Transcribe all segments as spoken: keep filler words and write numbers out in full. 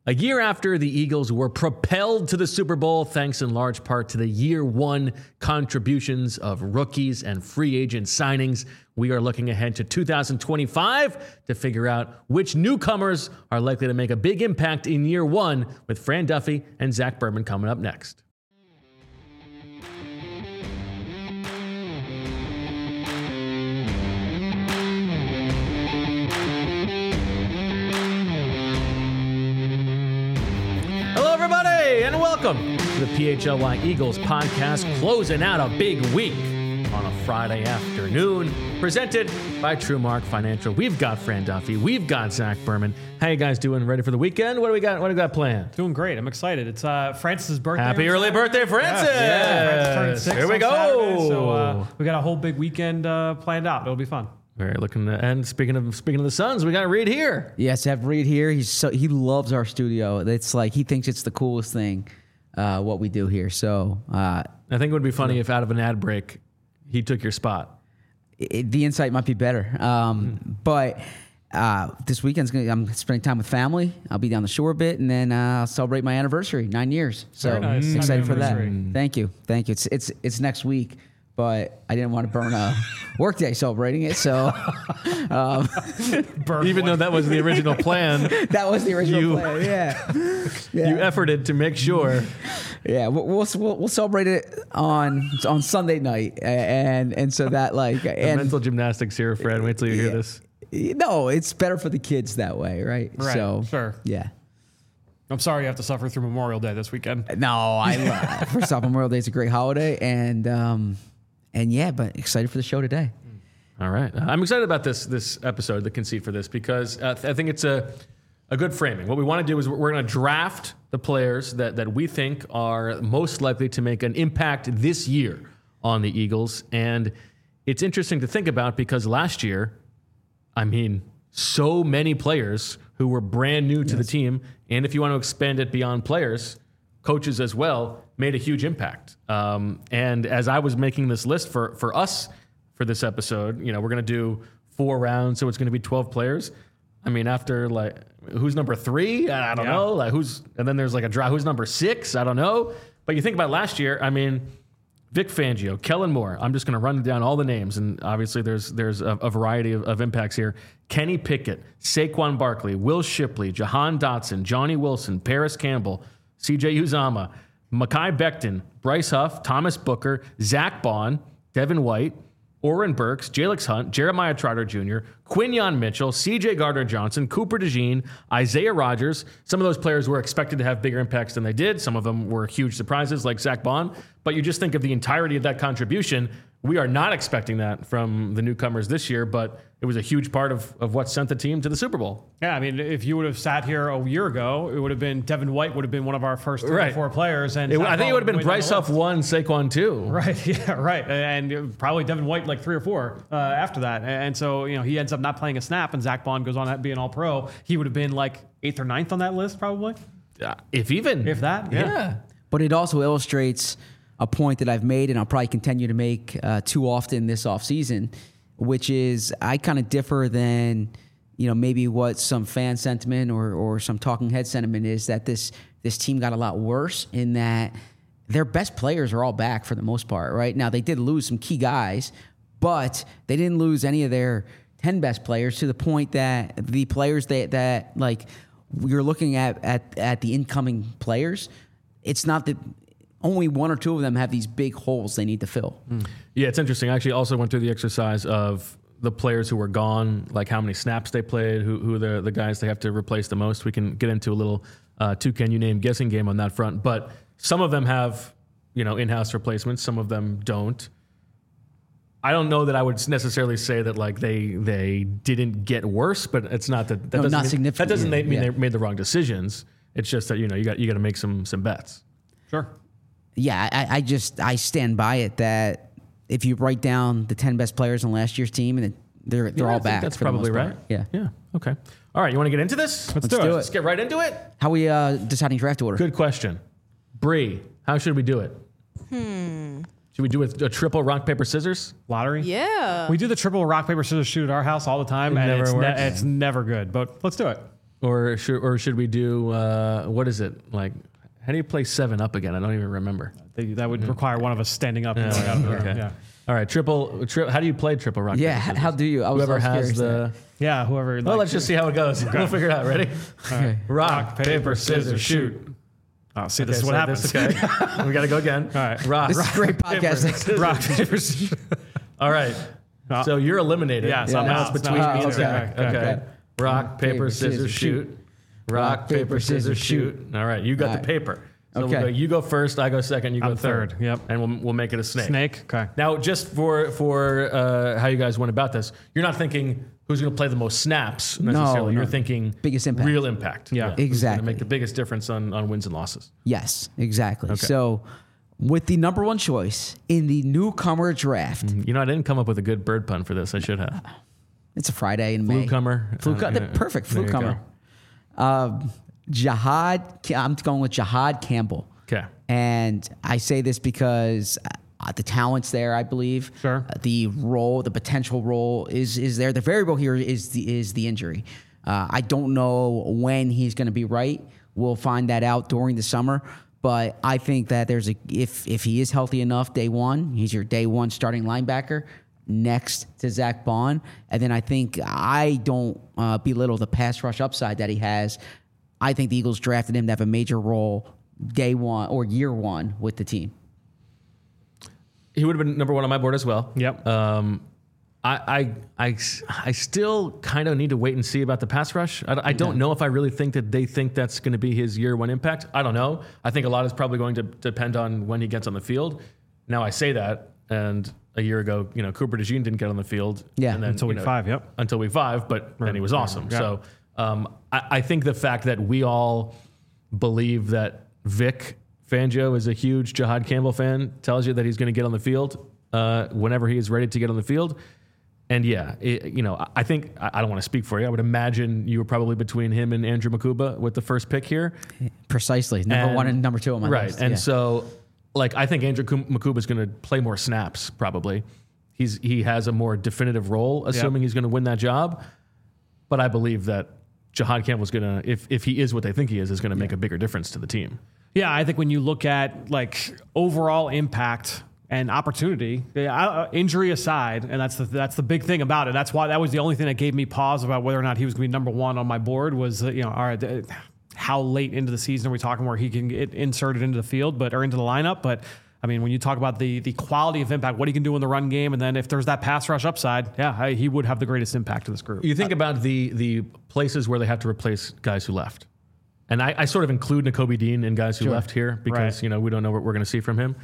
A year after the Eagles were propelled to the Super Bowl, thanks in large part to the year one contributions of rookies and free agent signings, we are looking ahead to two thousand twenty-five to figure out which newcomers are likely to make a big impact in year one, with Fran Duffy and Zach Berman coming up next. And welcome to the P H L Y Eagles podcast, closing out a big week on a Friday afternoon, presented by TrueMark Financial. We've got Fran Duffy, we've got Zach Berman. How you guys doing? Ready for the weekend? What do we got? What do we got planned? Doing great. I'm excited. It's uh, Francis' birthday. Happy early birthday, Francis! Yeah, yeah. Francis turned six Here we on go. Saturday, so uh, we got a whole big weekend uh, planned out. It'll be fun. Very looking to, and speaking of speaking of the Suns, we got Reed here. Yes, I have Reed here. He's so he loves our studio. It's like he thinks it's the coolest thing uh, what we do here. So uh, I think it would be funny if out of an ad break, he took your spot. It, the insight might be better, um, mm. but uh, this weekend's gonna. I'm spending time with family. I'll be down the shore a bit, and then uh, I'll celebrate my anniversary, nine years. So nice. excited for that. Thank you, thank you. It's it's it's next week. But I didn't want to burn a workday celebrating it, so um, even though that was the original plan, that was the original you, plan. Yeah. yeah, you efforted to make sure. Yeah, we'll we'll, we'll celebrate it on on Sunday night, and and so that like the and, mental gymnastics here, Fred. Wait till you hear yeah, this. No, it's better for the kids that way, right? Right. So sure. Yeah. I'm sorry you have to suffer through Memorial Day this weekend. No, I love, first off, Memorial Day is a great holiday, and. Um, And yeah, but excited for the show today. All right. I'm excited about this this episode, the conceit for this, because uh, I think it's a, a good framing. What we want to do is we're going to draft the players that, that we think are most likely to make an impact this year on the Eagles. And it's interesting to think about because last year, I mean, so many players who were brand new to yes. the team, and if you want to expand it beyond players, coaches as well, made a huge impact. Um, and as I was making this list for, for us for this episode, you know, we're going to do four rounds, so it's going to be twelve players. I mean, after like, who's number three? I don't yeah. know. Like who's, and then there's like a draw. Who's number six? I don't know. But you think about last year, I mean, Vic Fangio, Kellen Moore. I'm just going to run down all the names, and obviously there's there's a, a variety of, of impacts here. Kenny Pickett, Saquon Barkley, Will Shipley, Jahan Dotson, Johnny Wilson, Paris Campbell, C J Uzama, Mekhi Becton, Bryce Huff, Thomas Booker, Zach Bond, Devin White, Oren Burks, Jalix Hunt, Jeremiah Trotter Junior, Quinyon Mitchell, C J Gardner-Johnson, Cooper DeJean, Isaiah Rodgers. Some of those players were expected to have bigger impacts than they did. Some of them were huge surprises like Zach Bond. But you just think of the entirety of that contribution. We are not expecting that from the newcomers this year, but it was a huge part of, of what sent the team to the Super Bowl. Yeah, I mean, if you would have sat here a year ago, it would have been Devin White would have been one of our first three right. or four players. And it, I think it would have been Bryce Huff one, Saquon two. Right, yeah, right. And probably Devin White like three or four uh, after that. And so, you know, he ends up not playing a snap, and Zach Bond goes on to be an all-pro. He would have been like eighth or ninth on that list, probably. Uh, if even. If that, yeah. yeah. But it also illustrates a point that I've made, and I'll probably continue to make uh, too often this offseason, which is I kind of differ than, you know, maybe what some fan sentiment or or some talking head sentiment is, that this this team got a lot worse in that their best players are all back for the most part, right? Now, they did lose some key guys, but they didn't lose any of their ten best players, to the point that the players that, that like, you're looking at, at, at the incoming players, it's not that only one or two of them have these big holes they need to fill. Mm. Yeah, it's interesting. I actually also went through the exercise of the players who were gone, like how many snaps they played, who who the the guys they have to replace the most. We can get into a little uh, two can you name guessing game on that front. But some of them have, you know, in-house replacements. Some of them don't. I don't know that I would necessarily say that like they they didn't get worse, but it's not that that no, doesn't not mean, significant. that doesn't yeah, mean yeah. they made the wrong decisions. It's just that, you know, you got you got to make some some bets. Sure. Yeah, I, I just I stand by it that if you write down the ten best players on last year's team, and they're they're yeah, all back. That's for probably the most right. part. Yeah. Yeah. Okay. All right. You want to get into this? Let's, Let's do, do it. it. Let's get right into it. How we uh, deciding draft order? Good question. Bree, how should we do it? Hmm. Should we do a, a triple rock, paper, scissors? Lottery? Yeah. We do the triple rock, paper, scissors shoot at our house all the time, It and never it's, works. ne- it's never good. But let's do it. or should or should we do uh, what is it like? How do you play seven up again? I don't even remember. They, that would require one of us standing up. And Yeah, going out there. okay. Yeah. All right, triple. Tri- how do you play triple rock? Yeah, paper, h- scissors? how do you? I was, Whoever I was has curious the. there. Yeah, whoever. Well, like, let's just see how it goes. We'll figure it out. Ready? Okay. Rock, paper, scissors, shoot. Oh, see, this Okay, is what so happens. this- okay. We got to go again. All right. Rock. This is rock, great paper, podcasting. scissors, Rock, shoot. paper, scissors. All right. Uh, So you're eliminated. Yeah, so So I'm now out. it's between Ah, me and okay, Zach. okay, Okay. okay. Rock, paper, scissors, shoot. Rock, paper, scissors, shoot. All right. You got All the right. paper. So Okay. we'll go, you go first. I go second. You go I'm third. third, yep. And we'll, we'll make it a snake. Snake. Okay. Now, just for for uh, how you guys went about this, you're not thinking who's going to play the most snaps necessarily. No, You're no. thinking Biggest impact. real impact. Yeah. Who's going Exactly. to make the biggest difference on, on wins and losses. Yes, exactly. So, with the number one choice in the newcomer draft, You know, I didn't come up with a good bird pun for this. I should have. it's a Friday in May. Flucomer. Flu Uh, the yeah. perfect There you flucomer. Um, Jihad. I'm going with Jihad Campbell. Okay. And I say this because uh, the talent's there, I believe. Sure. Uh, the role, the potential role is is there. The variable here is the is the injury. Uh, I don't know when he's going to be right. We'll find that out during the summer. But I think that there's a if if he is healthy enough day one, he's your day one starting linebacker next to Zach Bond. And then I think I don't uh, belittle the pass rush upside that he has. I think the Eagles drafted him to have a major role day one or year one with the team. He would have been number one on my board as well. Yep. Um, I, I, I, I still kind of need to wait and see about the pass rush. I, I don't know if I really think that they think that's going to be his year one impact. I don't know. I think a lot is probably going to depend on when he gets on the field. Now I say that, and a year ago, you know, Cooper DeJean didn't get on the field. Yeah. and then, Until you week know, five, yep. Until week five, but then he was awesome. Yeah. So um, I, I think the fact that we all believe that Vic Fangio is a huge Jihad Campbell fan tells you that he's going to get on the field uh, whenever he is ready to get on the field. And yeah, it, you know, I- I think, I I don't want to speak for you. I would imagine you were probably between him and Andrew Makuba with the first pick here. Precisely. Number And- one and number two on my right. list. And yeah. so, like, I think Andrew Makuba is going to play more snaps probably. He's He has a more definitive role, assuming he's going to win that job. But I believe that Jihad Campbell's going to, if, if he is what they think he is, is going to make a bigger difference to the team. Yeah, I think when you look at like overall impact and opportunity, yeah, uh, injury aside, and that's the that's the big thing about it. That's why that was the only thing that gave me pause about whether or not he was going to be number one on my board was uh, you know, all right, uh, how late into the season are we talking where he can get inserted into the field, but or into the lineup? But I mean, when you talk about the the quality of impact, what he can do in the run game, and then if there's that pass rush upside, yeah, I, he would have the greatest impact to this group. You think about the the places where they have to replace guys who left. And I, I sort of include Nakobe Dean in guys who Sure. left here because, Right. you know, we don't know what we're going to see from him.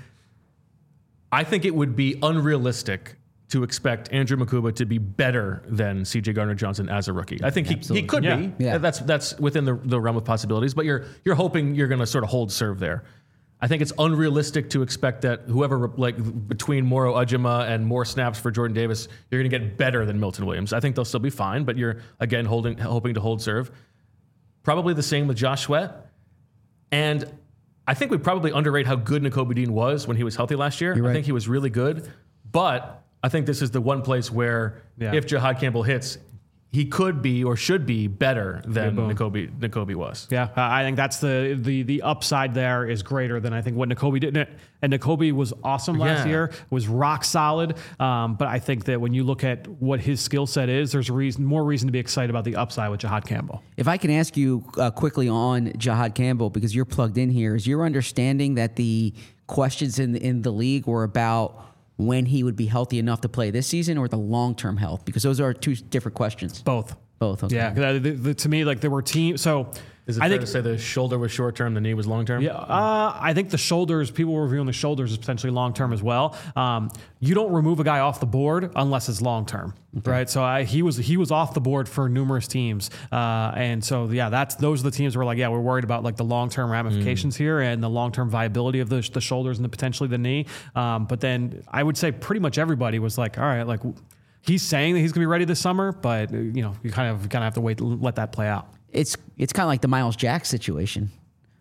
I think it would be unrealistic to expect Andrew Makuba to be better than C J Gardner-Johnson as a rookie. I think he, he could Yeah. be. Yeah. That's that's within the, the realm of possibilities, but you're you're hoping you're going to sort of hold serve there. I think it's unrealistic to expect that whoever, like between Moro Ujima and more snaps for Jordan Davis, you're going to get better than Milton Williams. I think they'll still be fine, but you're, again, holding hoping to hold serve. Probably the same with Josh Sweat. And I think we probably underrate how good Nakobe Dean was when he was healthy last year. I right. think he was really good. But I think this is the one place where Yeah. if Jihad Campbell hits, he could be or should be better than boom. Nakobe, Nakobe was. Yeah, uh, I think that's the the the upside there is greater than I think what Nakobe did. And Nakobe was awesome last Yeah. year, was rock solid. Um, but I think that when you look at what his skill set is, there's a reason, more reason to be excited about the upside with Jihad Campbell. If I can ask you uh, quickly on Jihad Campbell, because you're plugged in here, is your understanding that the questions in the, in the league were about when he would be healthy enough to play this season or the long-term health? Because those are two different questions. Both. Both. Okay. Yeah, 'cause, uh, the, the, to me, like there were teams. So Is it I fair think to say the shoulder was short term, the knee was long term? Yeah, uh, I think the shoulders, people were reviewing the shoulders as potentially long term as well. Um, you don't remove a guy off the board unless it's long term, right? So I, he was he was off the board for numerous teams, uh, and so yeah, that's those are the teams where like yeah, we're worried about like the long term ramifications Mm. here and the long term viability of the the shoulders and the potentially the knee. Um, but then I would say pretty much everybody was like, all right, like he's saying that he's gonna be ready this summer, but you know you kind of kind of have to wait, let that play out. It's it's kind of like the Miles Jack situation.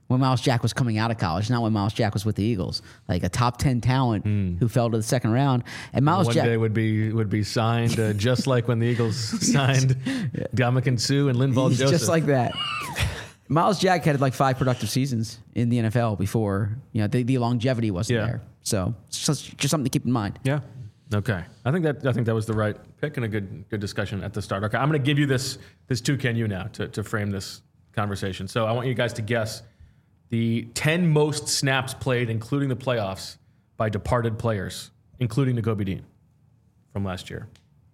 when Miles Jack was coming out of college, not when Miles Jack was with the Eagles. Like a top ten talent who fell to the second round. And Miles One Jack day would be would be signed uh, just like when the Eagles signed Dominican Sue and Linval Joseph. just like that. Miles Jack had like five productive seasons in the N F L before, you know, the, the longevity wasn't Yeah. there. So it's just, just something to keep in mind. Yeah. Okay, I think that I think that was the right pick and a good good discussion at the start. Okay, I'm going to give you this this two can you now to to frame this conversation. So I want you guys to guess the ten most snaps played, including the playoffs, by departed players, including Nakobe Dean from last year.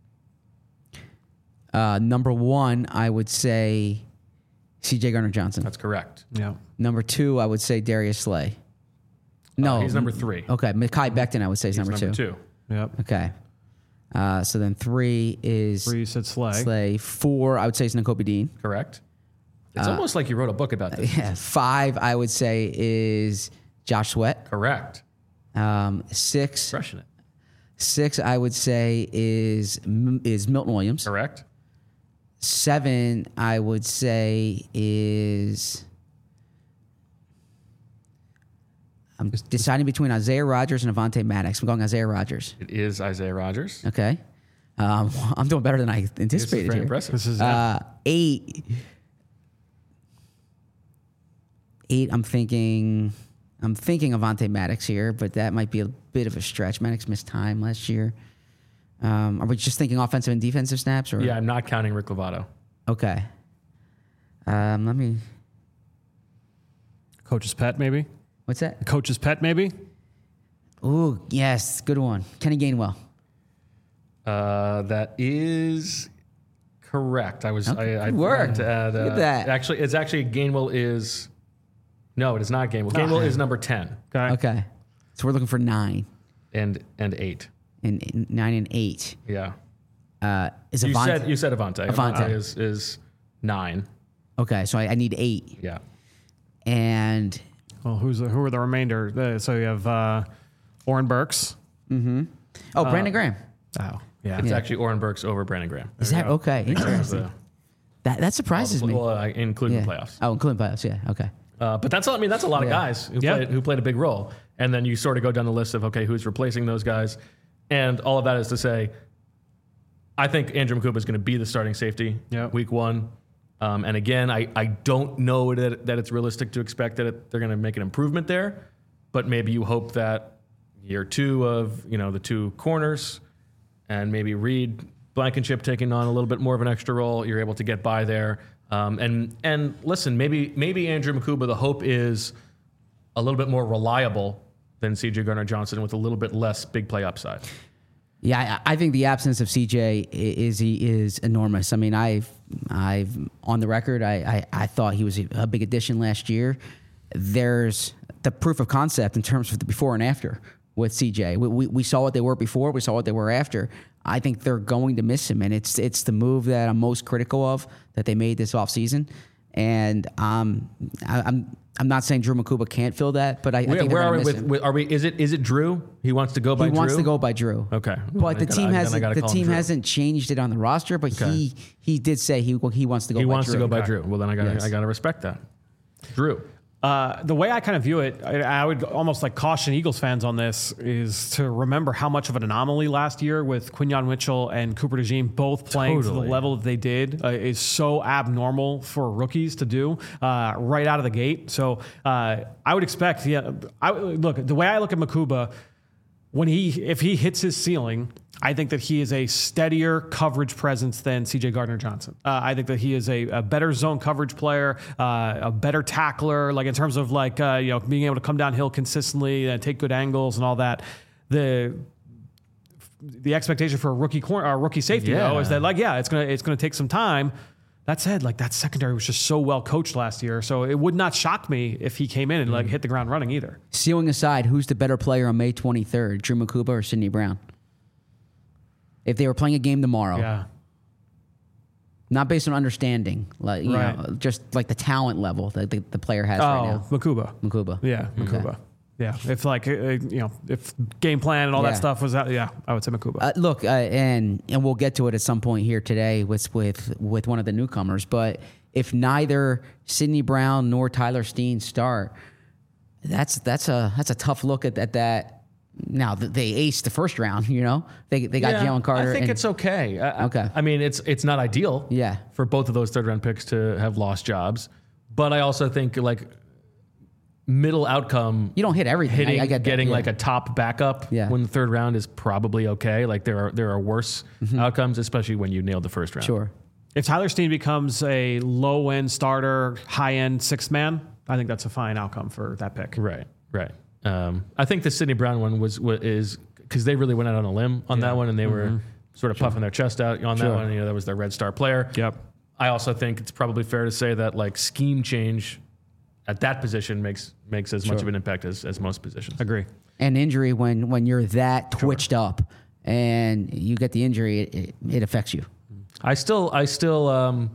Uh, number one, I would say C J Gardner-Johnson. That's correct. Yeah. Number two, I would say Darius Slay. No, Uh, he's number three. Okay, Mekhi Becton, I would say is He's number, number two. two. Yep. Okay. Uh, so then three is Three, you said Slay. Slay. Four, I would say is Nakobe Dean. Correct. It's Uh, almost like you wrote a book about this. Yeah. Five, I would say is Josh Sweat. Correct. Um, six, Crushing it. six, I would say is is Milton Williams. Correct. Seven, I would say is. I'm deciding between Isaiah Rodgers and Avonte Maddox. I'm going Isaiah Rodgers. It is Isaiah Rodgers. Okay. Um, I'm doing better than I This is anticipated very here. impressive. This is Uh, eight. Eight. I'm thinking. I'm thinking Avonte Maddox here, but that might be a bit of a stretch. Maddox missed time last year. Um, are we just thinking offensive and defensive snaps? Or Yeah, I'm not counting Rick Lovato. Okay. Um, let me. Coach's pet, maybe. What's that? Coach's pet, maybe. Ooh, yes, good one. Kenny Gainwell. Uh, that is correct. I was Okay, I, I good work. forgot to add. Look Uh, at that. Actually, it's actually Gainwell is. No, it is not Gainwell. Gainwell is number ten Okay. Okay. So we're looking for nine and and eight. and, and nine and eight. Yeah. Uh, is You Avonte? said you said Avonte. Avonte. is is nine. Okay, so I, I need eight. Yeah. And Well, who's the, who are the remainder? Uh, so you have uh, Oren Burks. oh, Brandon Graham. Oh, yeah. It's Yeah. actually Oren Burks over Brandon Graham. Is that okay? Interesting. The- That that surprises me. well, uh, including Yeah. the playoffs. Oh, including playoffs. Yeah. Okay. Uh, but that's I mean that's a lot of Yeah. guys who Yeah. played who played a big role, and then you sort of go down the list of okay who's replacing those guys, and all of that is to say, I think Andrew Makuba is going to be the starting safety Yeah. week one, um, and again I, I don't know that that it's realistic to expect that it, they're going to make an improvement there, but maybe you hope that year two of you know the two corners, and maybe Reed Blankenship taking on a little bit more of an extra role, you're able to get by there. Um, and and listen, maybe maybe Andrew Makuba, the hope is a little bit more reliable than C J Gardner-Johnson with a little bit less big play upside. Yeah, I, I think the absence of C J i- is he is enormous. I mean, I've I've on the record, I I, I thought he was a, a big addition last year. There's the proof of concept in terms of the before and after with C J. We, we, we saw what they were before. We saw what they were after. I think they're going to miss him, and it's it's the move that I'm most critical of that they made this offseason. And um, I, I'm I'm not saying Drew Makuba can't fill that, but I, I Where, think they're where are gonna we miss with, him. with? Are we? Is it is it Drew? He wants to go by He Drew. wants to go by Drew. Okay, But the I gotta- team then I hasn't gotta the call him team Drew. hasn't changed it on the roster, but Okay. he he did say he well, he wants to go. He by wants Drew. to go by Drew. Well, then I got Yes. I got to respect that. Drew. Uh, the way I kind of view it, I, I would almost like caution Eagles fans on this is to remember how much of an anomaly last year with Quinyon Mitchell and Cooper DeJean both playing to Totally. the level that they did uh, is so abnormal for rookies to do uh, right out of the gate. So uh, I would expect, yeah, I, look, the way I look at Makuba, when he if he hits his ceiling, I think that he is a steadier coverage presence than C J Gardner-Johnson. Uh, I think that he is a, a better zone coverage player, uh, a better tackler, like in terms of like uh, you know being able to come downhill consistently and take good angles and all that. The the expectation for a rookie corner, or rookie safety Yeah. though is that like yeah, it's gonna it's gonna take some time. That said, like that secondary was just so well coached last year, so it would not shock me if he came in and like hit the ground running either. Ceiling aside, who's the better player on May twenty-third, Drew Makuba or Sidney Brown? If they were playing a game tomorrow, Yeah. not based on understanding, like you Right. know, just like the talent level that the, the player has Oh, right now. Makuba. Makuba. Yeah, Makuba. Yeah, if like uh, you know, if game plan and all Yeah. that stuff was out, yeah, I would say Makuba. Uh, look, uh, and and we'll get to it at some point here today with with with one of the newcomers. But if neither Sidney Brown nor Tyler Steen start, that's that's a that's a tough look at, at that. Now they aced the first round, you know. They they got Yeah, Jalen Carter. I think and, it's okay. I, Okay. I, I mean, it's it's not ideal. Yeah. For both of those third round picks to have lost jobs, but I also think like middle outcome. You don't hit everything. Hitting, I, I get that, getting yeah. like a top backup Yeah. when the third round is probably okay. Like there are there are worse outcomes, especially when you nailed the first round. Sure. If Tyler Steen becomes a low end starter, high end sixth man, I think that's a fine outcome for that pick. Right. Right. Um, I think the Sidney Brown one was, was is because they really went out on a limb on that one, and they were sort of puffing their chest out on that Sure. one. You know, that was their red star player. Yep. I also think it's probably fair to say that like scheme change at that position makes makes as much of an impact as, as most positions. Agree. And injury when when you're that twitched up and you get the injury, it, it, it affects you. I still I still um,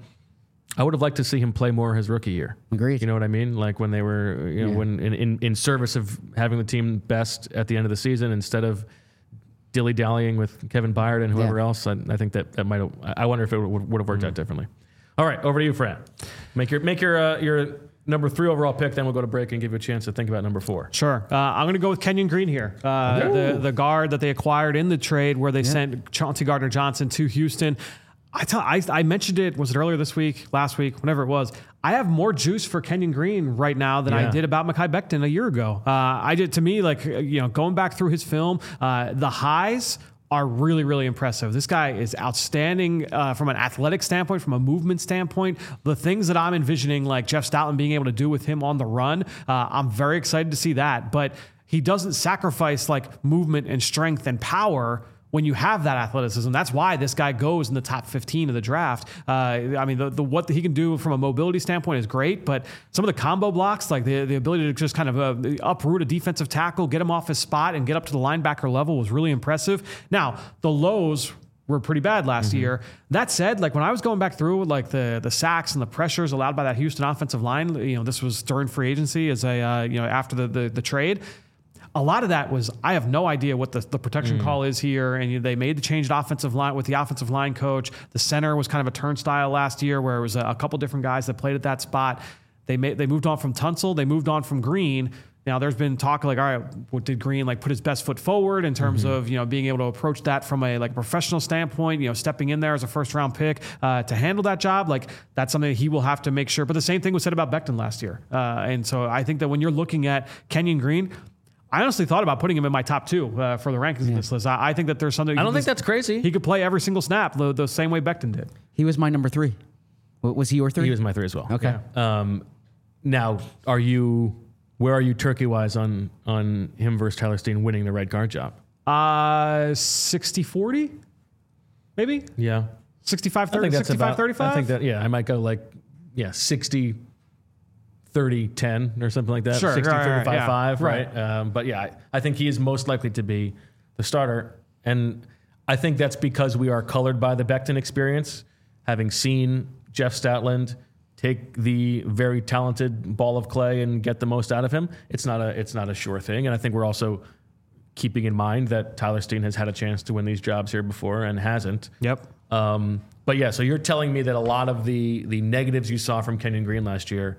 I would have liked to see him play more his rookie year. Agreed. You know what I mean? Like when they were, you know, Yeah. when in, in, in service of having the team best at the end of the season instead of dilly dallying with Kevin Byard and whoever Yeah. else. I, I think that that might have. I wonder if it would, would have worked out differently. All right, over to you, Fran. Make your make your uh, your number three overall pick. Then we'll go to break and give you a chance to think about number four. Sure. Uh, I'm going to go with Kenyon Green here. Uh, the, the guard that they acquired in the trade where they sent Chauncey Gardner-Johnson to Houston. I, tell, I, I mentioned it, was it earlier this week, last week, whenever it was. I have more juice for Kenyon Green right now than Yeah. I did about Mekhi Becton a year ago. Uh, I did, to me, like, you know, going back through his film, uh, the highs are really, really impressive. This guy is outstanding uh, from an athletic standpoint, from a movement standpoint. The things that I'm envisioning, like Jeff Stoutland being able to do with him on the run, uh, I'm very excited to see that. But he doesn't sacrifice like movement and strength and power when you have that athleticism. That's why this guy goes in the top fifteen of the draft. Uh, I mean, the, the what he can do from a mobility standpoint is great, but some of the combo blocks, like the, the ability to just kind of uh, uproot a defensive tackle, get him off his spot, and get up to the linebacker level was really impressive. Now, the lows were pretty bad last Mm-hmm. year. That said, like when I was going back through like the the sacks and the pressures allowed by that Houston offensive line, you know, this was during free agency as a uh, you know after the, the the trade. A lot of that was, I have no idea what the, the protection call is here. And you, they made the change to offensive line with the offensive line coach. The center was kind of a turnstile last year where it was a, a couple different guys that played at that spot. They made, they moved on from Tunsil. They moved on from Green. Now there's been talk like, all right, what did Green like put his best foot forward in terms Mm-hmm. of, you know, being able to approach that from a like professional standpoint, you know, stepping in there as a first round pick uh, to handle that job. Like that's something that he will have to make sure. But the same thing was said about Becton last year. Uh, and so I think that when you're looking at Kenyon Green, I honestly thought about putting him in my top two uh, for the rankings in this list. I, I think that there's something. I don't think that's crazy. He could play every single snap the, the same way Becton did. He was my number three. W- Was he your three? He was my three as well. Okay. Um, now, are you where are you turkey wise on on him versus Tyler Steen winning the right guard job? Uh, sixty forty, maybe? Yeah, sixty-five I thirty, think that's sixty-five about. thirty-five? I think that yeah, I might go like yeah sixty. thirty ten or something like that. Sure, sixty right, right, thirty-five yeah, five, right. right? Um, but yeah, I, I think he is most likely to be the starter. And I think that's because we are colored by the Becton experience, having seen Jeff Stoutland take the very talented ball of clay and get the most out of him. It's not a it's not a sure thing. And I think we're also keeping in mind that Tyler Steen has had a chance to win these jobs here before and hasn't. Yep. Um, but yeah, so you're telling me that a lot of the the negatives you saw from Kenyon Green last year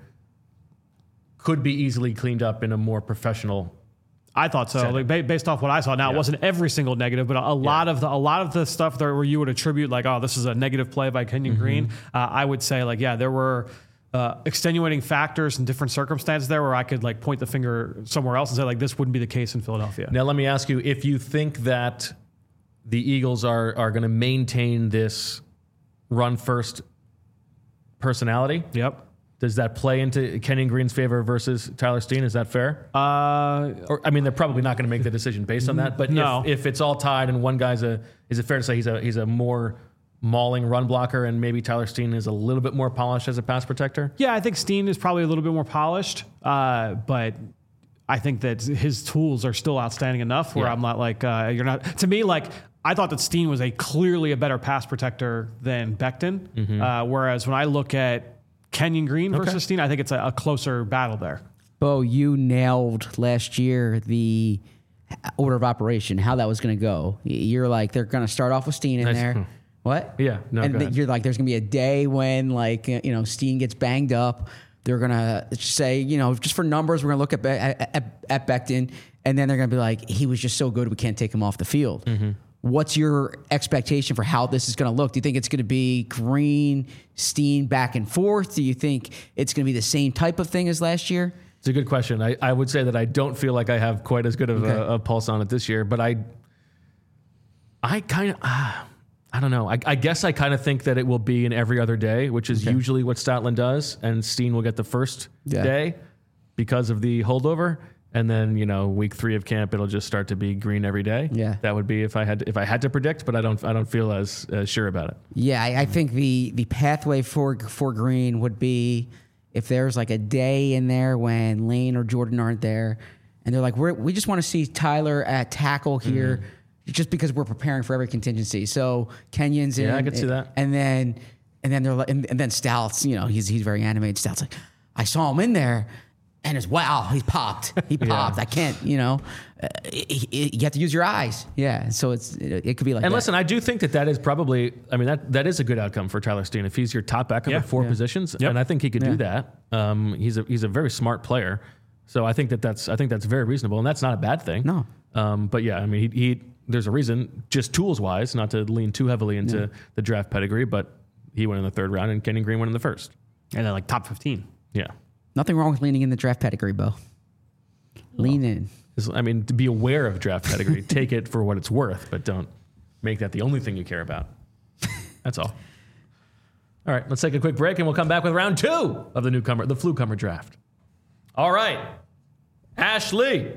could be easily cleaned up in a more professional. I thought so. Like, ba- based off what I saw. Now, Yeah. it wasn't every single negative, but a, a lot of the a lot of the stuff there where you would attribute like, oh, this is a negative play by Kenyon Mm-hmm. Green. Uh, I would say like, yeah, there were uh, extenuating factors and different circumstances there where I could like point the finger somewhere else and say like, this wouldn't be the case in Philadelphia. Now, let me ask you: if you think that the Eagles are are going to maintain this run first personality, Yep. does that play into Kenyon Green's favor versus Tyler Steen? Is that fair? Uh, Or I mean, they're probably not going to make the decision based on that. But No. if, if it's all tied and one guy's a, is it fair to say he's a he's a more mauling run blocker and maybe Tyler Steen is a little bit more polished as a pass protector? yeah, I think Steen is probably a little bit more polished, uh, but I think that his tools are still outstanding enough where Yeah. I'm not like, uh, you're not, to me, like, I thought that Steen was a clearly a better pass protector than Becton. Mm-hmm. Uh, whereas when I look at Kenyon Green versus Steen, I think it's a, a closer battle there. Bo, you nailed last year the order of operation, how that was going to go. You're like, they're going to start off with Steen in Nice. there. What? Yeah, no, And go th- ahead. you're like, there's gonna be a day when like uh, you know Steen gets banged up. They're gonna say, you know, just for numbers, we're gonna look at Be- at, at, at Becton, and then they're gonna be like, he was just so good, we can't take him off the field. Mm-hmm. What's your expectation for how this is gonna look? Do you think it's gonna be Green, Steen back and forth? Do you think it's gonna be the same type of thing as last year? It's a good question. I, I would say that I don't feel like I have quite as good of Okay. a, a pulse on it this year, but I, I kind of, uh, I don't know. I, I guess I kind of think that it will be an every other day, which is Okay. usually what Stoutland does, and Steen will get the first Yeah. day because of the holdover, and then you know week three of camp it'll just start to be Green every day. Yeah. that would be if I had if I had to predict, but I don't I don't feel as uh, sure about it. Yeah, I, I think the the pathway for for Green would be if there's like a day in there when Lane or Jordan aren't there, and they're like, We're, we just want to see Tyler at tackle here, Mm-hmm. just because we're preparing for every contingency. So Kenyon's in, Yeah, I could see that. and then and then they're like, and, and then Stouts, you know, he's he's very animated. Stouts like, I saw him in there. And it's wow, he popped. He popped. I can't, you know, uh, it, it, you have to use your eyes. Yeah, so it's it, it could be like. And that. listen, I do think that that is probably, I mean, that, that is a good outcome for Tyler Steen if he's your top backup Yeah. at four Yeah. positions, Yep. and I think he could Yeah. do that. Um, he's a he's a very smart player, so I think that that's I think that's very reasonable, and that's not a bad thing. No. Um, but yeah, I mean, he, he there's a reason, just tools wise, not to lean too heavily into Yeah. the draft pedigree, but he went in the third round, and Kenyon Green went in the first. And then like top fifteen. Yeah. Nothing wrong with leaning in the draft pedigree, Bo. Lean in. Is- I mean, to be aware of draft pedigree, take it for what it's worth, but don't make that the only thing you care about. That's all. All right, let's take a quick break and we'll come back with round two of the newcomer, the Flucomer draft. All right, Ashley.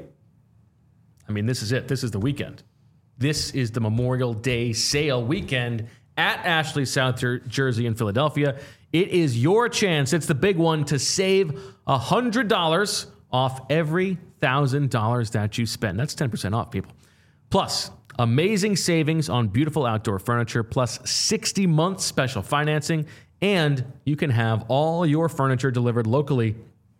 I mean, this is it. This is the weekend. This is the Memorial Day sale weekend at Ashley South Jer- Jersey in Philadelphia. It is your chance. It's the big one to save one hundred dollars off every one thousand dollars that you spend. That's ten percent off, people. Plus, amazing savings on beautiful outdoor furniture, plus sixty month special financing, and you can have all your furniture delivered locally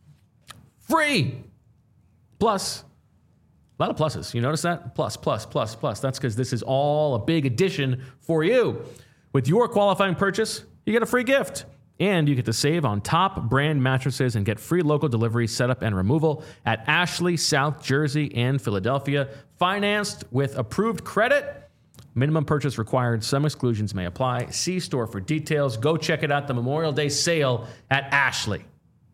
free. Plus, a lot of pluses. You notice that? Plus, plus, plus, plus. That's because this is all a big addition for you. With your qualifying purchase, you get a free gift. And you get to save on top brand mattresses and get free local delivery, setup, and removal at Ashley, South Jersey, and Philadelphia. Financed with approved credit. Minimum purchase required. Some exclusions may apply. See store for details. Go check it out. The Memorial Day sale at Ashley.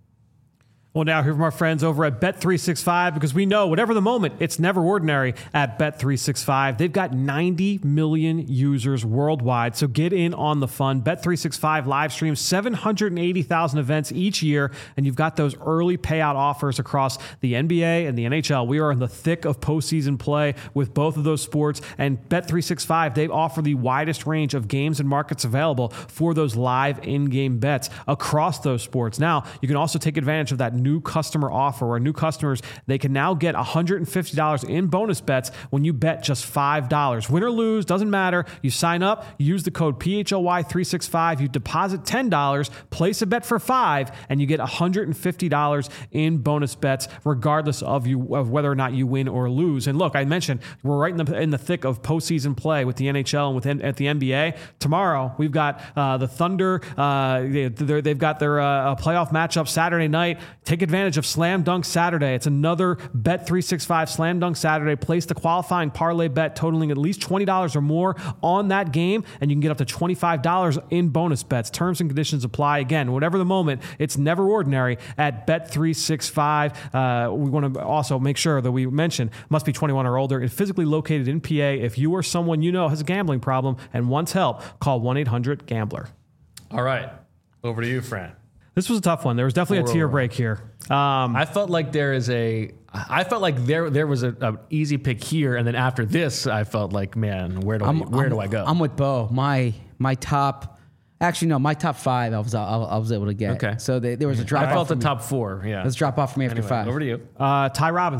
Well, now here from our friends over at Bet three sixty-five, because we know whatever the moment, it's never ordinary at Bet three sixty-five. They've got ninety million users worldwide, so get in on the fun. Bet three sixty-five live streams seven hundred eighty thousand events each year, and you've got those early payout offers across the N B A and the N H L. We are in the thick of postseason play with both of those sports, and Bet three sixty-five, they offer the widest range of games and markets available for those live in-game bets across those sports. Now, you can also take advantage of that new customer offer where new customers, they can now get one hundred fifty dollars in bonus bets when you bet just five dollars. Win or lose, doesn't matter. You sign up, you use the code P H L Y three sixty-five, you deposit ten dollars, place a bet for five, and you get one hundred fifty dollars in bonus bets regardless of you of whether or not you win or lose. And look, I mentioned we're right in the in the thick of postseason play with the N H L and with at the N B A. Tomorrow, we've got uh, the Thunder. Uh, they, they've got their uh, playoff matchup Saturday night. Take advantage of Slam Dunk Saturday. It's another Bet three sixty-five Slam Dunk Saturday. Place the qualifying parlay bet totaling at least twenty dollars or more on that game, and you can get up to twenty-five dollars in bonus bets. Terms and conditions apply. Again, whatever the moment, it's never ordinary at Bet three sixty-five. Uh, we want to also make sure that we mention must be twenty-one or older and physically located in P A. If you or someone you know has a gambling problem and wants help, call one eight hundred gambler. All right. Over to you, Fran. This was a tough one. There was definitely a tier break here. Um, I felt like there is a. I felt like there there was a, a easy pick here, and then after this, I felt like, man, where do I, where I'm, do I go? I'm with Bo. My my top, actually no, my top five. I was I, I was able to get. Okay. So they, there was a drop I off. felt the for me. top four. Yeah. Let's drop off for me after Anyway, five. over to you. uh, Ty Robinson.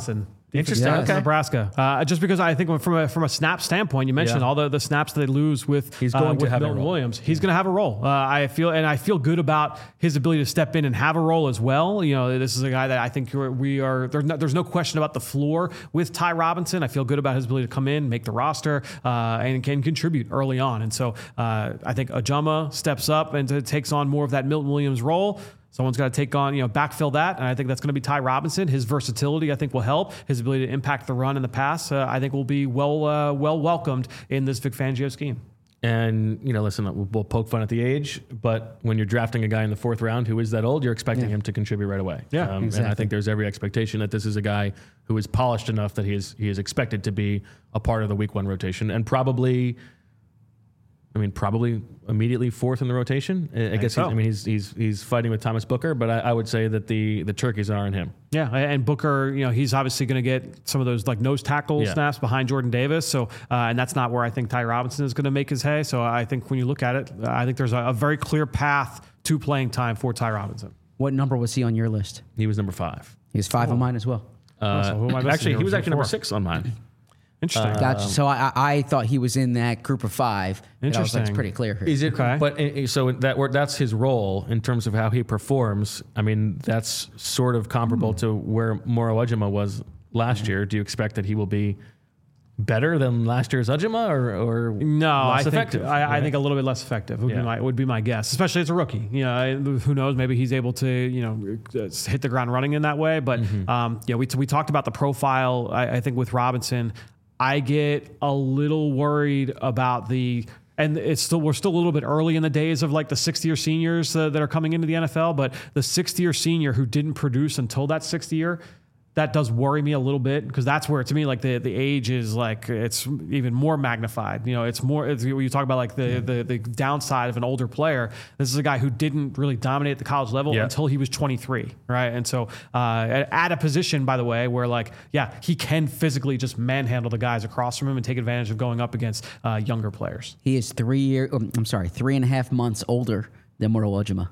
Interesting. Yeah, Okay. Nebraska. Uh, just because I think from a from a snap standpoint, you mentioned Yeah. all the, the snaps that they lose with He's going uh, to with have a Milton role. Williams. He's going to have a role. Uh, I feel and I feel good about his ability to step in and have a role as well. You know, this is a guy that I think we're, we are. There's no, there's no question about the floor with Ty Robinson. I feel good about his ability to come in, make the roster, uh, and can contribute early on. And so uh, I think Ajama steps up and t- takes on more of that Milton Williams role. Someone's got to take on, you know, backfill that. And I think that's going to be Ty Robinson. His versatility, I think, will help. His ability to impact the run and the pass, uh, I think, will be well uh, well welcomed in this Vic Fangio scheme. And, you know, listen, we'll, we'll poke fun at the age, but when you're drafting a guy in the fourth round who is that old, you're expecting Yeah. him to contribute right away. Yeah, um, exactly. And I think there's every expectation that this is a guy who is polished enough that he is he is expected to be a part of the week one rotation and probably, I mean, probably immediately fourth in the rotation. I, I guess so. he's, I mean he's he's he's fighting with Thomas Booker, but I, I would say that the the turkeys are in him. Yeah, and Booker, you know, he's obviously going to get some of those like nose tackle Yeah. snaps behind Jordan Davis. So, uh, and that's not where I think Ty Robinson is going to make his hay. So, I think when you look at it, uh, I think there's a, a very clear path to playing time for Ty Robinson. What number was he on your list? He was number five. He was five on mine as well. Uh, so who am I missing actually, here? he was Was it actually number four? six on mine. Interesting. Gotcha. So I, I I thought he was in that group of five. And I was like, it's Interesting. pretty clear here. Is it? Okay. But uh, so that where that's his role in terms of how he performs. I mean, that's sort of comparable to where Moro Ujima was last year. Do you expect that he will be better than last year's Ujima, or or No, I less think effective? I, I Right? think a little bit less effective would Yeah. be my would be my guess, especially as a rookie. You know, I- who knows? Maybe he's able to you know uh, hit the ground running in that way. But Mm-hmm. um, yeah, we we talked about the profile. I, I think with Robinson, I get a little worried about the. And it's still we're still a little bit early in the days of like the sixth year seniors uh, that are coming into the N F L, but the sixth year senior who didn't produce until that sixth year, that does worry me a little bit because that's where to me like the, the age is like it's even more magnified. You know, it's more it's, when you talk about like the, the the downside of an older player. This is a guy who didn't really dominate at the college level Yeah. until he was twenty-three, right? And so uh, at, at a position, by the way, where like yeah, he can physically just manhandle the guys across from him and take advantage of going up against uh, younger players. He is three year. um, I'm sorry, three and a half months older than Moro Ujima.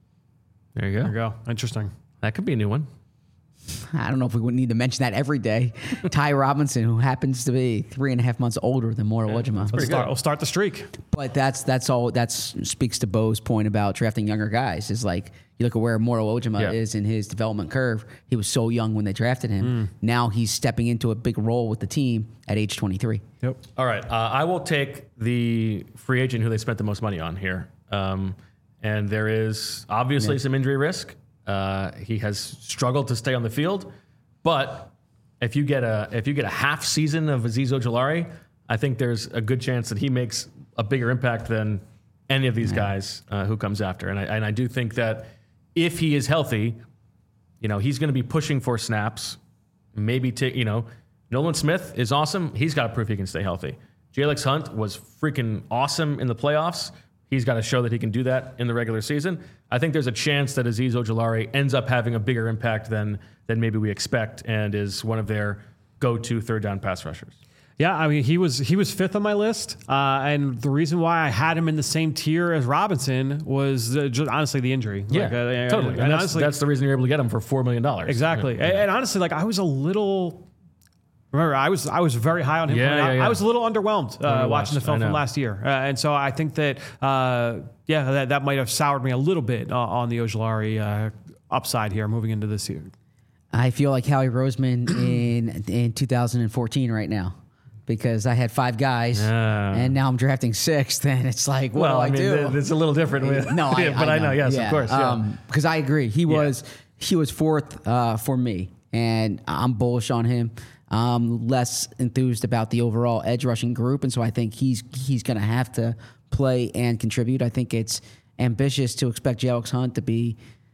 There you go. There you go. Interesting. That could be a new one. I don't know if we would need to mention that every day. Ty Robinson, who happens to be three and a half months older than Moro Ujima. Let's start, we'll start the streak. But that's that's all. That speaks to Bo's point about drafting younger guys. Is like you look at where Moro Ujima Yeah. is in his development curve. He was so young when they drafted him. Now he's stepping into a big role with the team at age twenty-three. Yep. All right, uh, I will take the free agent who they spent the most money on here, um, and there is obviously some injury risk. Uh, he has struggled to stay on the field, but if you get a if you get a half season of Azeez Ojulari, I think there's a good chance that he makes a bigger impact than any of these guys uh, who comes after. And I, and I do think that if he is healthy, you know, he's going to be pushing for snaps. Maybe take you know, Nolan Smith is awesome. He's got to prove he can stay healthy. Jalex Hunt was freaking awesome in the playoffs. He's got to show that he can do that in the regular season. I think there's a chance that Azeez Ojulari ends up having a bigger impact than than maybe we expect, and is one of their go-to third down pass rushers. Yeah, I mean he was he was fifth on my list, uh, and the reason why I had him in the same tier as Robinson was uh, just honestly the injury. Yeah, Like, uh, totally. And, And that's, honestly, that's the reason you're able to get him for four million dollars. exactly. Yeah. And, and honestly, like I was a little. Remember, I was I was very high on him. Yeah, coming out. yeah, yeah. I was a little underwhelmed uh, Underwatched, watching the I film from know. last year, uh, and so I think that uh, yeah, that, that might have soured me a little bit uh, on the Ojulari uh, upside here moving into this year. I feel like Howie Roseman in in two thousand fourteen right now. Because I had five guys, Yeah. and now I'm drafting sixth, and it's like, what Well, do I, I mean, do? th- it's a little different. With, No, I, but I know, yes, of course. Yeah. Because I agree, he was he was fourth uh, for me, and I'm bullish on him. I'm less enthused about the overall edge rushing group, and so I think he's he's going to have to play and contribute. I think it's ambitious to expect Jalex Hunt to be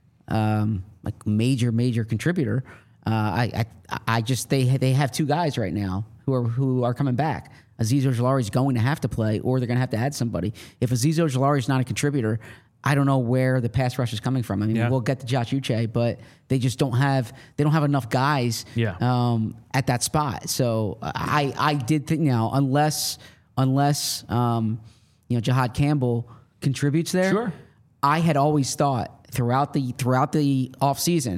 um, like major major contributor. Uh, I, I I just they they have two guys right now who are who are coming back. Azeez Ojulari is going to have to play, or they're going to have to add somebody. If Azeez Ojulari is not a contributor, I don't know where the pass rush is coming from. I mean, Yeah. we'll get to Josh Uche, but they just don't have they don't have enough guys Yeah. um, at that spot. So I I did think now unless unless um, you know Jahad Campbell contributes there, Sure. I had always thought throughout the throughout the offseason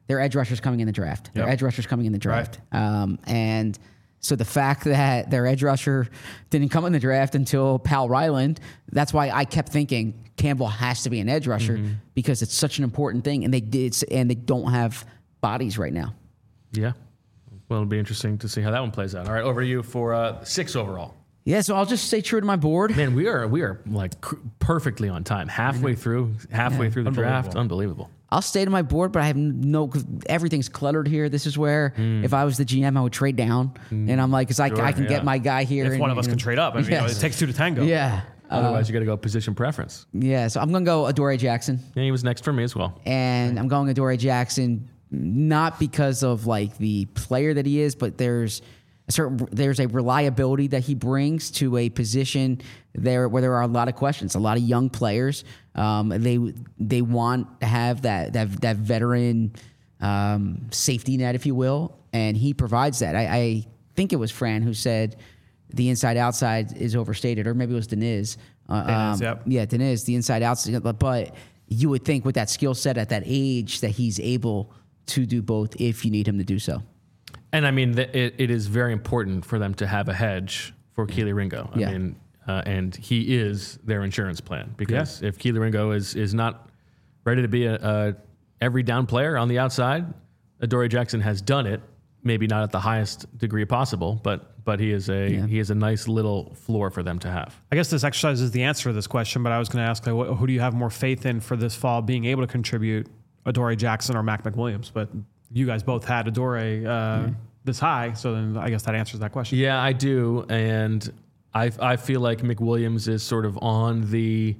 their edge rushers coming in the draft. Their Yep. edge rushers coming in the draft. Um, and so the fact that their edge rusher didn't come in the draft until Pal Ryland, that's why I kept thinking Campbell has to be an edge rusher mm-hmm. because it's such an important thing, and they did, and they don't have bodies right now. Yeah. Well, it'll be interesting to see how that one plays out. All right, over to you for uh, six overall. Yeah, so I'll just stay true to my board. Man, we are we are like cr- perfectly on time. Halfway through, halfway yeah. through the draft, unbelievable. I'll stay to my board, but I have no. Cause everything's cluttered here. This is where mm. if I was the G M, I would trade down, mm. and I'm like, because sure, I, I can yeah. get my guy here. If and, one of us and, can trade up, I mean, yes. you know, it takes two to tango. Yeah. Otherwise, uh, you got to go position preference. Yeah, so I'm gonna go Adoree Jackson. Yeah, he was next for me as well. And I'm going Adoree Jackson, not because of like the player that he is, but there's a certain there's a reliability that he brings to a position there where there are a lot of questions, a lot of young players. Um, they they want to have that that that veteran um, safety net, if you will, and he provides that. I, I think it was Fran who said the inside outside is overstated, or maybe it was Deniz. Uh, Deniz, um, yep. Yeah, Deniz, the inside outside, but you would think with that skill set at that age that he's able to do both if you need him to do so. And I mean, the, it, it is very important for them to have a hedge for Kelee Ringo. I yeah. mean, uh, and he is their insurance plan, because yeah. if Kelee Ringo is is not ready to be a, a every down player on the outside, Adoree Jackson has done it. Maybe not at the highest degree possible, but but he is a yeah. he is a nice little floor for them to have. I guess this exercise is the answer to this question, but I was going to ask, like, who do you have more faith in for this fall being able to contribute, Adoree Jackson or Mac McWilliams? But you guys both had Adoree uh, mm-hmm. this high, so then I guess that answers that question. Yeah, I do, and I I feel like McWilliams is sort of on the,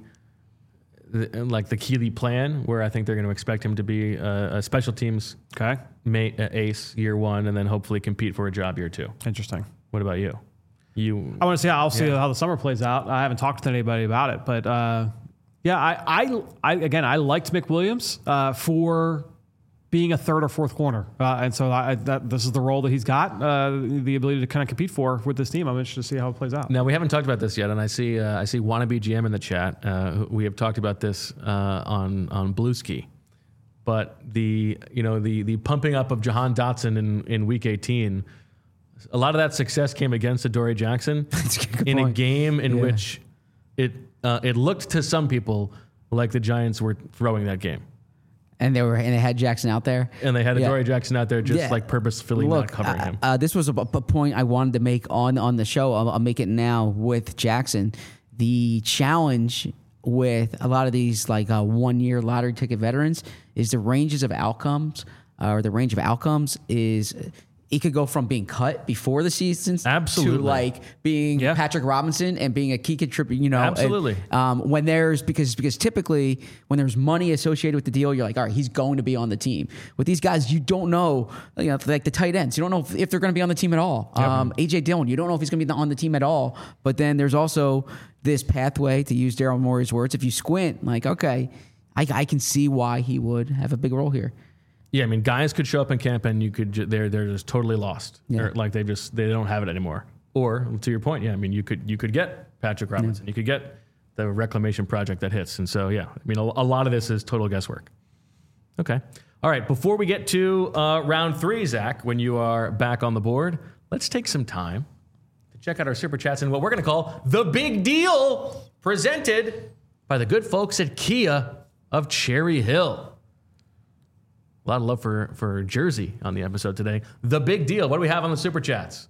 the like the Kelee plan, where I think they're going to expect him to be a, a special teams okay May, uh, ace year one, and then hopefully compete for a job year two. Interesting. What about you? You. I want to see. I'll see yeah. how the summer plays out. I haven't talked to anybody about it, but uh, yeah, I, I, I, again, I liked McWilliams uh, for being a third or fourth corner, uh, and so I, that this is the role that he's got, uh, the ability to kind of compete for with this team. I'm interested to see how it plays out. Now, we haven't talked about this yet, and I see uh, I see wannabe G M in the chat. Uh, we have talked about this uh, on on Blueski. But the you know the the pumping up of Jahan Dotson in, in week eighteen, a lot of that success came against Adoree Jackson a in point. a game in yeah. which it uh, it looked to some people like the Giants were throwing that game, and they were and they had Jackson out there, and they had yeah. Adoree Jackson out there just yeah. like purposefully Look, not covering uh, him. Uh, this was a, a point I wanted to make on on the show. I'll, I'll make it now with Jackson. The challenge with a lot of these like uh, one-year lottery ticket veterans is the ranges of outcomes, uh, or the range of outcomes is it could go from being cut before the season Absolutely. to like being yeah. Patrick Robinson and being a key contributor. You know, Absolutely. And, um, when there's because because typically when there's money associated with the deal, you're like, all right, he's going to be on the team. With these guys, you don't know, you know, like the tight ends, you don't know if, if they're going to be on the team at all. Yep. Um, A J Dillon, you don't know if he's going to be on the team at all. But then there's also this pathway, to use Daryl Morey's words. If you squint, like, okay, I, I can see why he would have a big role here. Yeah, I mean, guys could show up in camp and you could ju- they're they're just totally lost. Yeah. They're, like they just they don't have it anymore. Or to your point, yeah, I mean, you could you could get Patrick Robinson, yeah. you could get the reclamation project that hits, and so yeah, I mean, a, a lot of this is total guesswork. Okay, all right. Before we get to uh, round three, Zach, when you are back on the board, let's take some time to check out our super chats and what we're going to call the big deal, presented by the good folks at Kia of Cherry Hill. A lot of love for, for Jersey on the episode today. The big deal. What do we have on the super chats?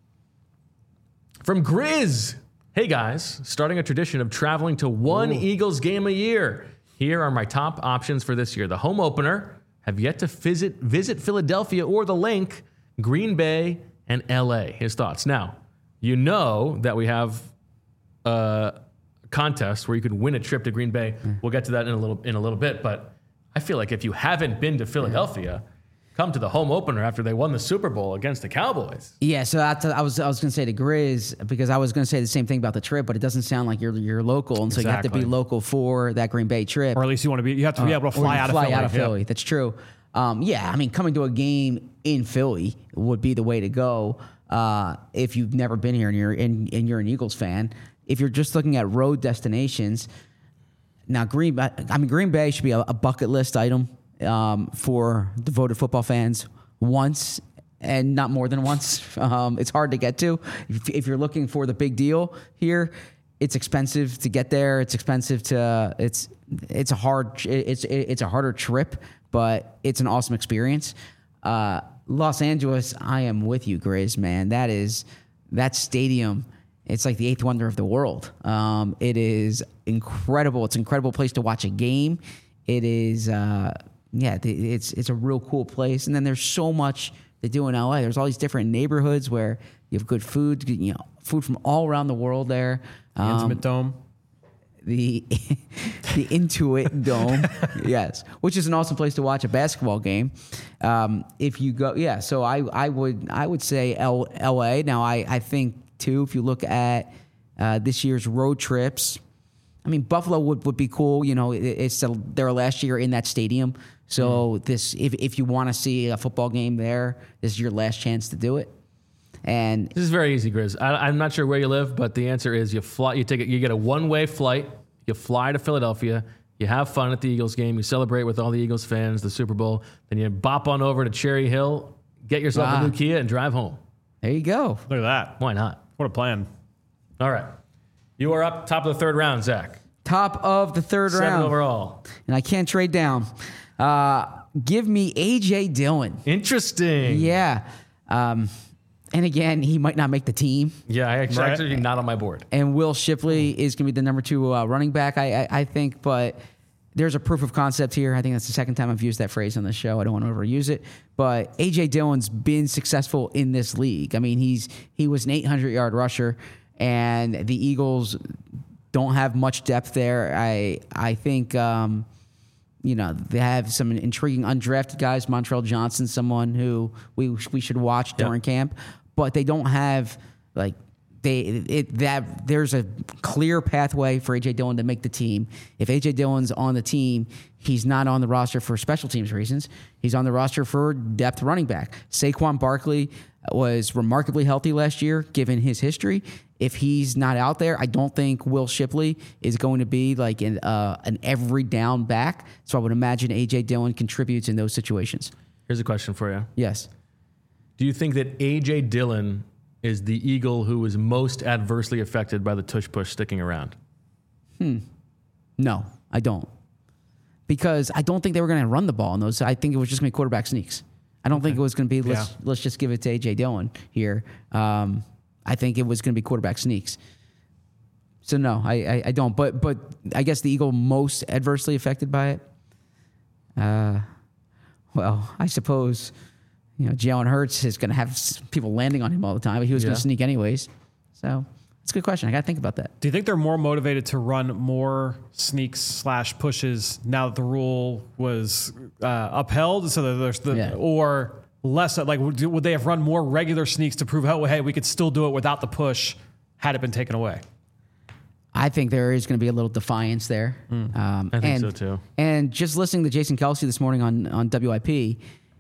From Grizz. Hey guys, starting a tradition of traveling to one Ooh. Eagles game a year. Here are my top options for this year. The home opener, have yet to visit visit Philadelphia or the Link, Green Bay, and L A. His thoughts. Now, you know that we have a contest where you could win a trip to Green Bay. Mm. We'll get to that in a little in a little bit, but I feel like if you haven't been to Philadelphia, come to the home opener after they won the Super Bowl against the Cowboys. Yeah, so that's, I was I was going to say to Grizz, because I was going to say the same thing about the trip, but it doesn't sound like you're you're local, and so exactly. you have to be local for that Green Bay trip, or at least you want to be. You have to be uh, able to fly out fly of Philly. out of Philly. That's true. Um, yeah, I mean, coming to a game in Philly would be the way to go uh, if you've never been here and you're and, and you're an Eagles fan. If you're just looking at road destinations. Now, Green, I mean, Green Bay should be a, a bucket list item um, for devoted football fans once and not more than once. Um, it's hard to get to. If, if you're looking for the big deal here, it's expensive to get there. It's expensive to. It's it's a hard. It's it's a harder trip, but it's an awesome experience. Uh, Los Angeles, I am with you, Grizz, man. That is that stadium. It's like the eighth wonder of the world. Um, it is incredible. It's an incredible place to watch a game. It is, uh, yeah, it's it's a real cool place. And then there's so much they do in L A. There's all these different neighborhoods where you have good food, you know, food from all around the world there. Um, Intimate Dome. The the Intuit Dome, yes, which is an awesome place to watch a basketball game. Um, if you go, yeah, so I, I would I would say L, L.A. Now I, I think too, if you look at uh, this year's road trips, I mean Buffalo would, would be cool. You know, it, it's a, their last year in that stadium, so mm. this if if you want to see a football game there, this is your last chance to do it. And this is very easy, Grizz. I, I'm not sure where you live, but the answer is you fly. You take it. You get a one-way flight. You fly to Philadelphia. You have fun at the Eagles game. You celebrate with all the Eagles fans, the Super Bowl. Then you bop on over to Cherry Hill, get yourself ah. a new Kia, and drive home. There you go. Look at that. Why not? What a plan. All right. You are up top of the third round, Zach. Top of the third Seven round. overall. And I can't trade down. Uh, give me A J Dillon. Interesting. Yeah. Um, and again, he might not make the team. Yeah, I actually, right. actually not on my board. And Will Shipley is going to be the number two uh, running back, I, I, I think. But there's a proof of concept here. I think that's the second time I've used that phrase on the show. I don't want to overuse it. But A J Dillon's been successful in this league. I mean, he's he was an eight hundred yard rusher, and the Eagles don't have much depth there. I I think um, you know they have some intriguing undrafted guys. Montrell Johnson, someone who we we should watch during yep. camp, but they don't have like. They, it, that there's a clear pathway for A J Dillon to make the team. If A J Dillon's on the team, he's not on the roster for special teams reasons. He's on the roster for depth running back. Saquon Barkley was remarkably healthy last year, given his history. If he's not out there, I don't think Will Shipley is going to be like an, uh, an every down back. So I would imagine A J Dillon contributes in those situations. Here's a question for you. Yes. Do you think that A J Dillon is the Eagle who was most adversely affected by the tush push sticking around? Hmm. No, I don't. Because I don't think they were going to run the ball in those. I think it was just going to be quarterback sneaks. I don't okay. think it was going to be, let's, yeah. let's just give it to A J Dillon here. Um, I think it was going to be quarterback sneaks. So, no, I, I, I don't. But but I guess the Eagle most adversely affected by it? Uh, well, I suppose... You know, Jalen Hurts is going to have people landing on him all the time, but he was yeah. going to sneak anyways. So it's a good question. I got to think about that. Do you think they're more motivated to run more sneaks slash pushes now that the rule was uh, upheld? So that there's the, yeah. or less like would, would they have run more regular sneaks to prove, oh, hey, we could still do it without the push had it been taken away? I think there is going to be a little defiance there. Mm, um, I think and, so too. And just listening to Jason Kelce this morning on on W I P.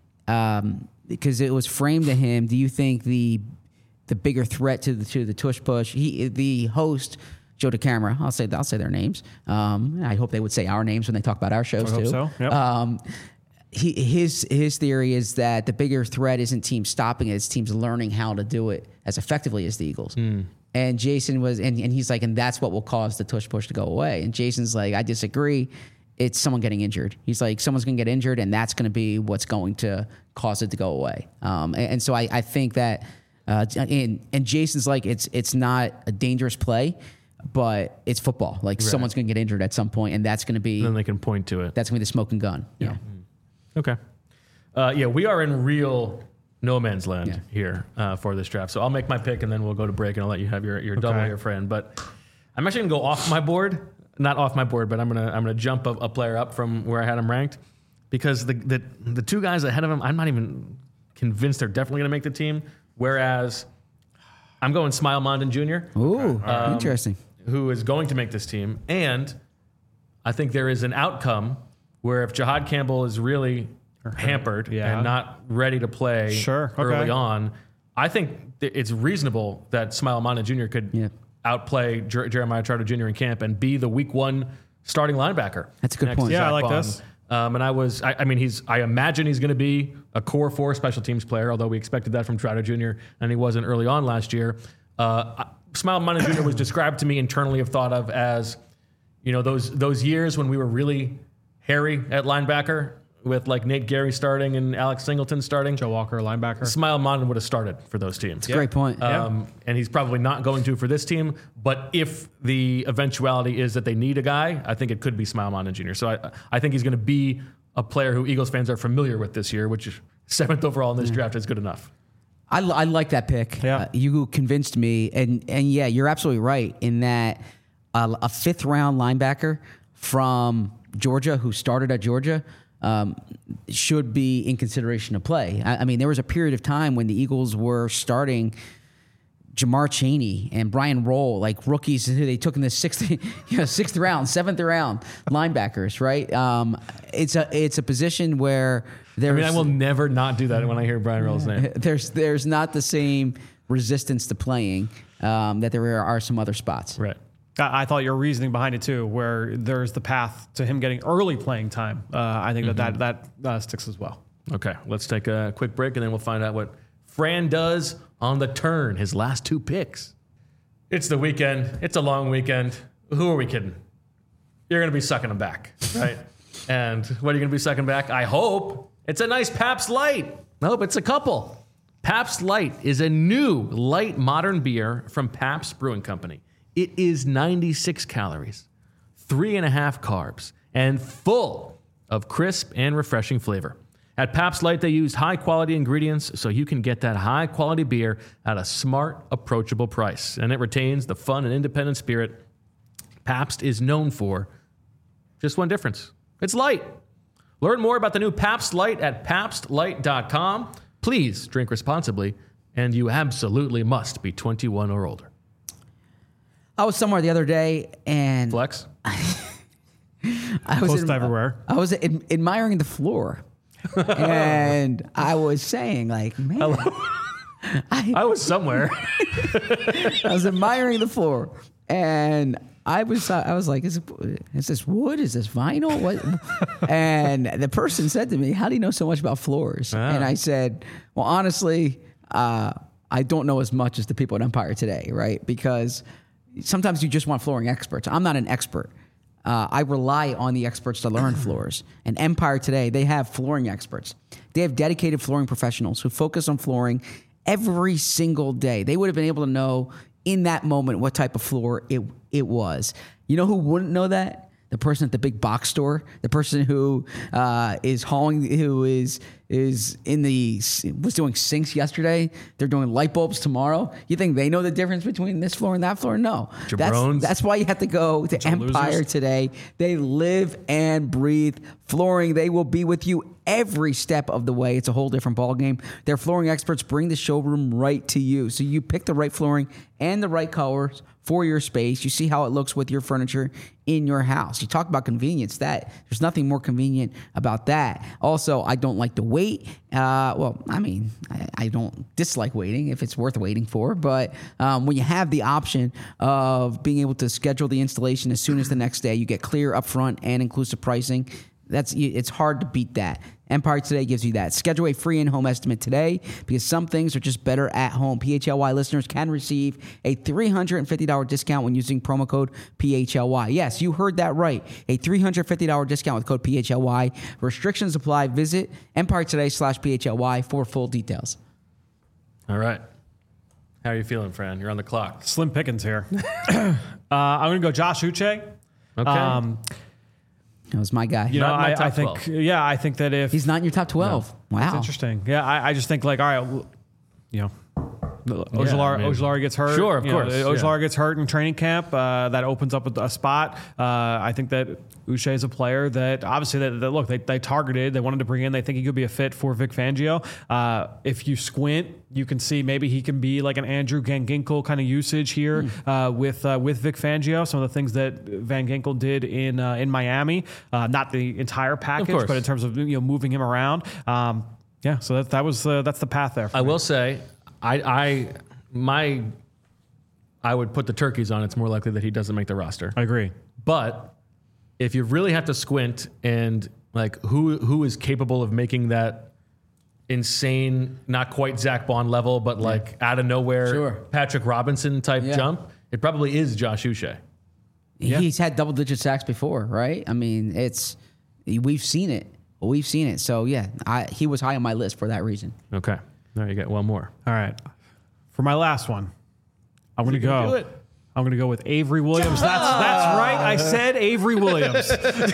Um, because it was framed to him. Do you think the the bigger threat to the to the tush push? He the host Joe DeCamara. I'll say I'll say their names. Um, I hope they would say our names when they talk about our shows I too. Hope so. Yep. Um, he, his his theory is that the bigger threat isn't teams stopping it; it's teams learning how to do it as effectively as the Eagles. Mm. And Jason was, and, and he's like, and that's what will cause the tush push to go away. And Jason's like, I disagree. It's someone getting injured. He's like, someone's going to get injured, and that's going to be what's going to cause it to go away. Um, and, and so I, I think that, uh, and, and Jason's like, it's it's not a dangerous play, but it's football. Like right. someone's going to get injured at some point, and that's going to be. Then they can point to it. That's going to be the smoking gun. Yeah. yeah. Okay. Uh, yeah, we are in real no man's land yeah. here uh, for this draft. So I'll make my pick, and then we'll go to break, and I'll let you have your your okay. double here, friend. But I'm actually going to go off my board. Not off my board, but I'm gonna I'm gonna jump a, a player up from where I had him ranked, because the, the the two guys ahead of him, I'm not even convinced they're definitely gonna make the team. Whereas I'm going Smile Mondon Junior Ooh, um, interesting. Who is going to make this team, and I think there is an outcome where if Jahad Campbell is really hampered yeah. and not ready to play sure. okay. early on, I think it's reasonable that Smile Mondon Junior could. Yeah. outplay Jer- Jeremiah Trotter Junior in camp and be the week one starting linebacker. That's a good next point. to Yeah, Zach I like Bond. this. Um, and I was, I, I mean, he's, I imagine he's going to be a core four special teams player, although we expected that from Trotter Junior and he wasn't early on last year. Uh, Smile Money Junior was described to me internally of thought of as, you know, those those years when we were really hairy at linebacker with like Nate Gary starting and Alex Singleton starting. Joe Walker, linebacker. Smile Money would have started for those teams. It's a great point. Um, yeah. And he's probably not going to for this team. But if the eventuality is that they need a guy, I think it could be Smile Money Junior So I, I think he's going to be a player who Eagles fans are familiar with this year, which is seventh overall in this mm. draft is good enough. I, I like that pick. Yeah. Uh, you convinced me. And, and yeah, you're absolutely right in that uh, a fifth round linebacker from Georgia who started at Georgia um, should be in consideration to play. I, I mean, there was a period of time when the Eagles were starting Jamar Chaney and Brian Roll, like rookies who they took in the sixth, you know, sixth round, seventh round linebackers, right? Um, it's a it's a position where there's. I mean, I will never not do that when I hear Brian Roll's name. There's there's not the same resistance to playing um, that there are some other spots. Right. I I thought your reasoning behind it too, where there's the path to him getting early playing time. Uh, I think mm-hmm. that that, that uh, sticks as well. Okay, let's take a quick break and then we'll find out what Fran does on the turn, his last two picks. It's the weekend. It's a long weekend. Who are we kidding? You're going to be sucking them back, right? And what are you going to be sucking back? I hope it's a nice Pabst Light. Nope, it's a couple. Pabst Light is a new light modern beer from Pabst Brewing Company. It is ninety-six calories, three and a half carbs, and full of crisp and refreshing flavor. At Pabst Light, they use high-quality ingredients so you can get that high-quality beer at a smart, approachable price. And it retains the fun and independent spirit Pabst is known for. Just one difference. It's light. Learn more about the new Pabst Light at pabst light dot com. Please drink responsibly, and you absolutely must be twenty-one or older. I was somewhere the other day, and... Flex? I was Close in, to everywhere. I was ad- admiring the floor. And I was saying, like, man, I, I was somewhere. I was admiring the floor, and I was, I was like, is, it, is this wood? Is this vinyl? What? And the person said to me, "How do you know so much about floors?" Ah. And I said, "Well, honestly, uh, I don't know as much as the people at Empire Today, right? Because sometimes you just want flooring experts. I'm not an expert." Uh, I rely on the experts to learn floors. And Empire Today, they have flooring experts. They have dedicated flooring professionals who focus on flooring every single day. They would have been able to know in that moment what type of floor it it was. You know who wouldn't know that? The person at the big box store, the person who uh, is hauling, who is is in the was doing sinks yesterday. They're doing light bulbs tomorrow. You think they know the difference between this floor and that floor? No, that's, that's why you have to go to Empire losers. Today. They live and breathe flooring. They will be with you every step of the way. It's a whole different ballgame. Their flooring experts bring the showroom right to you, so you pick the right flooring and the right colors for your space. You see how it looks with your furniture in your house. You talk about convenience. That there's nothing more convenient about that. Also, I don't like to wait. Uh, well, I mean, I, I don't dislike waiting if it's worth waiting for. But um, when you have the option of being able to schedule the installation as soon as the next day, you get clear upfront and inclusive pricing. That's it's hard to beat that. Empire Today gives you that. Schedule a free in-home estimate today because some things are just better at home. P H L Y listeners can receive a three hundred fifty dollars discount when using promo code P H L Y. Yes, you heard that right. A three hundred fifty dollars discount with code P H L Y. Restrictions apply. Visit Empire Today slash P H L Y for full details. All right. How are you feeling, Fran? You're on the clock. Slim pickings here. uh, I'm going to go Josh Uche. Okay. Um, That was my guy. You know, Not in my I, top I think, twelve. yeah, I think that if He's not in your top twelve. No, Wow. that's interesting. Yeah, I, I just think like, all right, well, you know, Ojulari, I mean, Ojulari gets hurt. Sure, of You know, course, Ojulari yeah. gets hurt in training camp. Uh, that opens up a, a spot. Uh, I think that Uche is a player that obviously that, that look they, they targeted. They wanted to bring in. They think he could be a fit for Vic Fangio. Uh, if you squint, you can see maybe he can be like an Andrew Van Ginkel kind of usage here mm. uh, with uh, with Vic Fangio. Some of the things that Van Ginkel did in uh, in Miami, uh, not the entire package, but in terms of you know moving him around. Um, yeah, so that that was uh, that's the path there. I me. will say, I I my I would put the turkeys on. It's more likely that he doesn't make the roster. I agree, but if you really have to squint and Like who who is capable of making that insane, not quite Zach Bond level, but like out of nowhere, Sure. Patrick Robinson type Yeah. jump? It probably is Josh Uche. Yeah. He's had double digit sacks before, right? I mean, it's we've seen it. We've seen it. So yeah, I, he was high on my list for that reason. Okay, there you get one more. All right. For my last one, I'm going to You can go. do it. I'm going to go with Avery Williams. That's that's right. I said Avery Williams.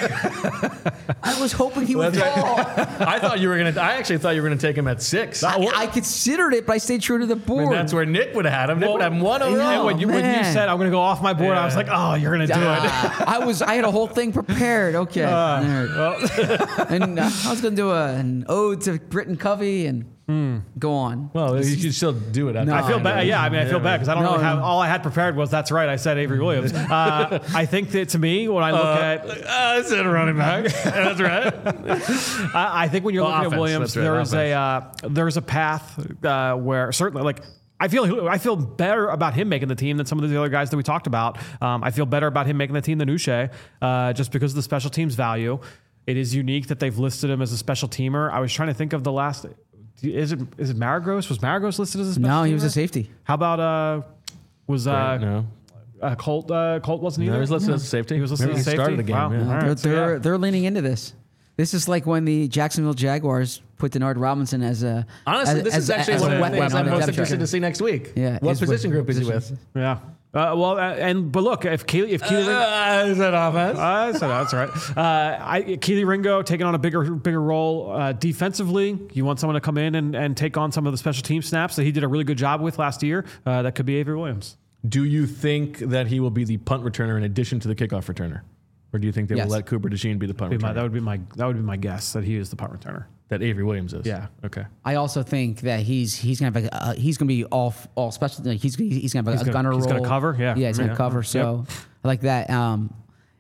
I was hoping he would fall. I thought you were gonna. I actually thought you were gonna take him at six. I I, I considered it, but I stayed true to the board. mean, that's where Nick would have had him. Nick would have him one I overall. know. And when you, when you man. said I'm going to go off my board, I was Yeah. like, oh, you're going to do it. Ah, I was. I had a whole thing prepared. Okay, All right. and uh, I was going to do a, an ode to Britton Covey and go on. Well, you can still do it. No, I feel I bad. know. Yeah, I mean, I feel bad because I don't No, really have. no. All I had prepared was that's right. I said Avery Williams. Uh, I think that to me, when I look at, I said running back. That's right. I, I think when you're Well, looking offense, at Williams, that's right, there is a uh, there's a path uh, where certainly like. I feel I feel better about him making the team than some of the other guys that we talked about. Um, I feel better about him making the team than Uche, uh, just because of the special teams value. It is unique that they've listed him as a special teamer. I was trying to think of the last. Is it is it Maragos? Was Maragos listed as a special No, he teamer? was a safety. How about uh, was uh, no, uh, Colt? Uh, Colt wasn't either. no, he was listed as a safety. He was listed Maybe as he a started safety? the game. Wow. Yeah. All right. They're So, they're, yeah. they're leaning into this. This is like when the Jacksonville Jaguars put Denard Robinson as a Honestly, as, this as, is actually as one a of the weapon things on I'm the most depth interested chart. to see next week. Yeah, What is position what group is he positions. with? Yeah. Uh, well, uh, and but look, if Keely, if Keely, Uh, is that offense? Uh, so that's right. Uh, I, Keely Ringo taking on a bigger bigger role uh, defensively. You want someone to come in and, and take on some of the special team snaps that he did a really good job with last year. Uh, that could be Avery Williams. Do you think that he will be the punt returner in addition to the kickoff returner, or do you think they Yes. will let Cooper DeJean be the punt Be my- returner? that would be my that would be my guess that he is the punt returner. that Avery Williams is. Yeah. Okay. I also think that he's he's gonna have a, uh, he's gonna be all all special. Like he's he's gonna have a, He's a gonna- gunner he's role. gonna cover, yeah. yeah, he's gonna Yeah. cover. So I like that. Um,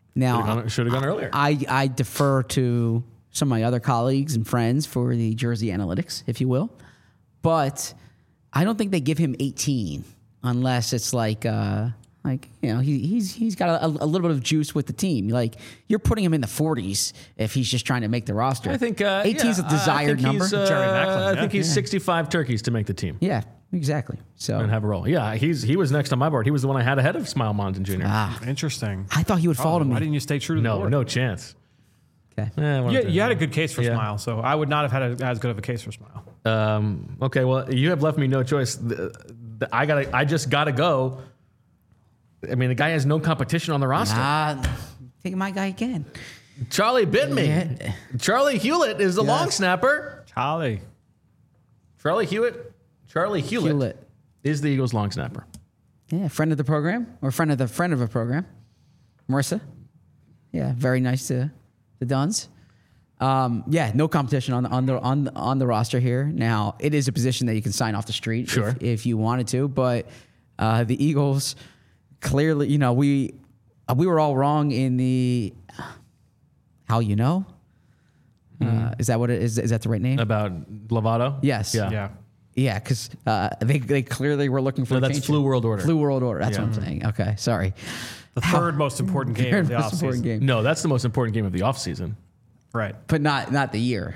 now Should have gone earlier. I I defer to some of my other colleagues and friends for the jersey analytics, if you will, but I don't think they give him eighteen unless it's like. Uh, Like, you know, he, he's he's got a, a little bit of juice with the team. Like, you're putting him in the forties if he's just trying to make the roster. I think uh, eighteen is yeah, a desired I think number. he's, uh, Jerry Macklin, I yeah. think he's Yeah. sixty-five turkeys to make the team Yeah, exactly. So and have a role. Yeah, he's he was next on my board. He was the one I had ahead of Smile Monson Junior ah, Interesting. I thought he would fall Oh, to me. why didn't you stay true to the No, board? no chance. Okay. Eh, one You, of the- you had a good case for Yeah. Smile, so I would not have had a, as good of a case for Smile. Um, okay, well, you have left me no choice. The, the, I got. I just got to go. I mean, the guy has no competition on the roster. Ah, take my guy again. Charlie bit me. Yeah. Charlie Hewlett is the Yes. long snapper. Charlie. Charlie Hewitt. Charlie Hewlett, Hewlett. is the Eagles' long snapper. Yeah, friend of the program or friend of the friend of a program, Marissa. Yeah, very nice to the Duns. Um, yeah, no competition on the on the on the, on the roster here. Now it is a position that you can sign off the street Sure. if, if you wanted to, but uh, the Eagles clearly, you know, we uh, we were all wrong in the how you know. Uh, is that what it is? Is that the right name? About Lovato? Yes. Yeah. Yeah. Yeah, because uh, they they clearly were looking for. No, a that's change Flu here. World Order. Flu World Order. That's Yeah. what I'm saying. Okay, sorry. The third most important game Third of the most important offseason. game. No, that's the most important game of the offseason. Right. But not not the year.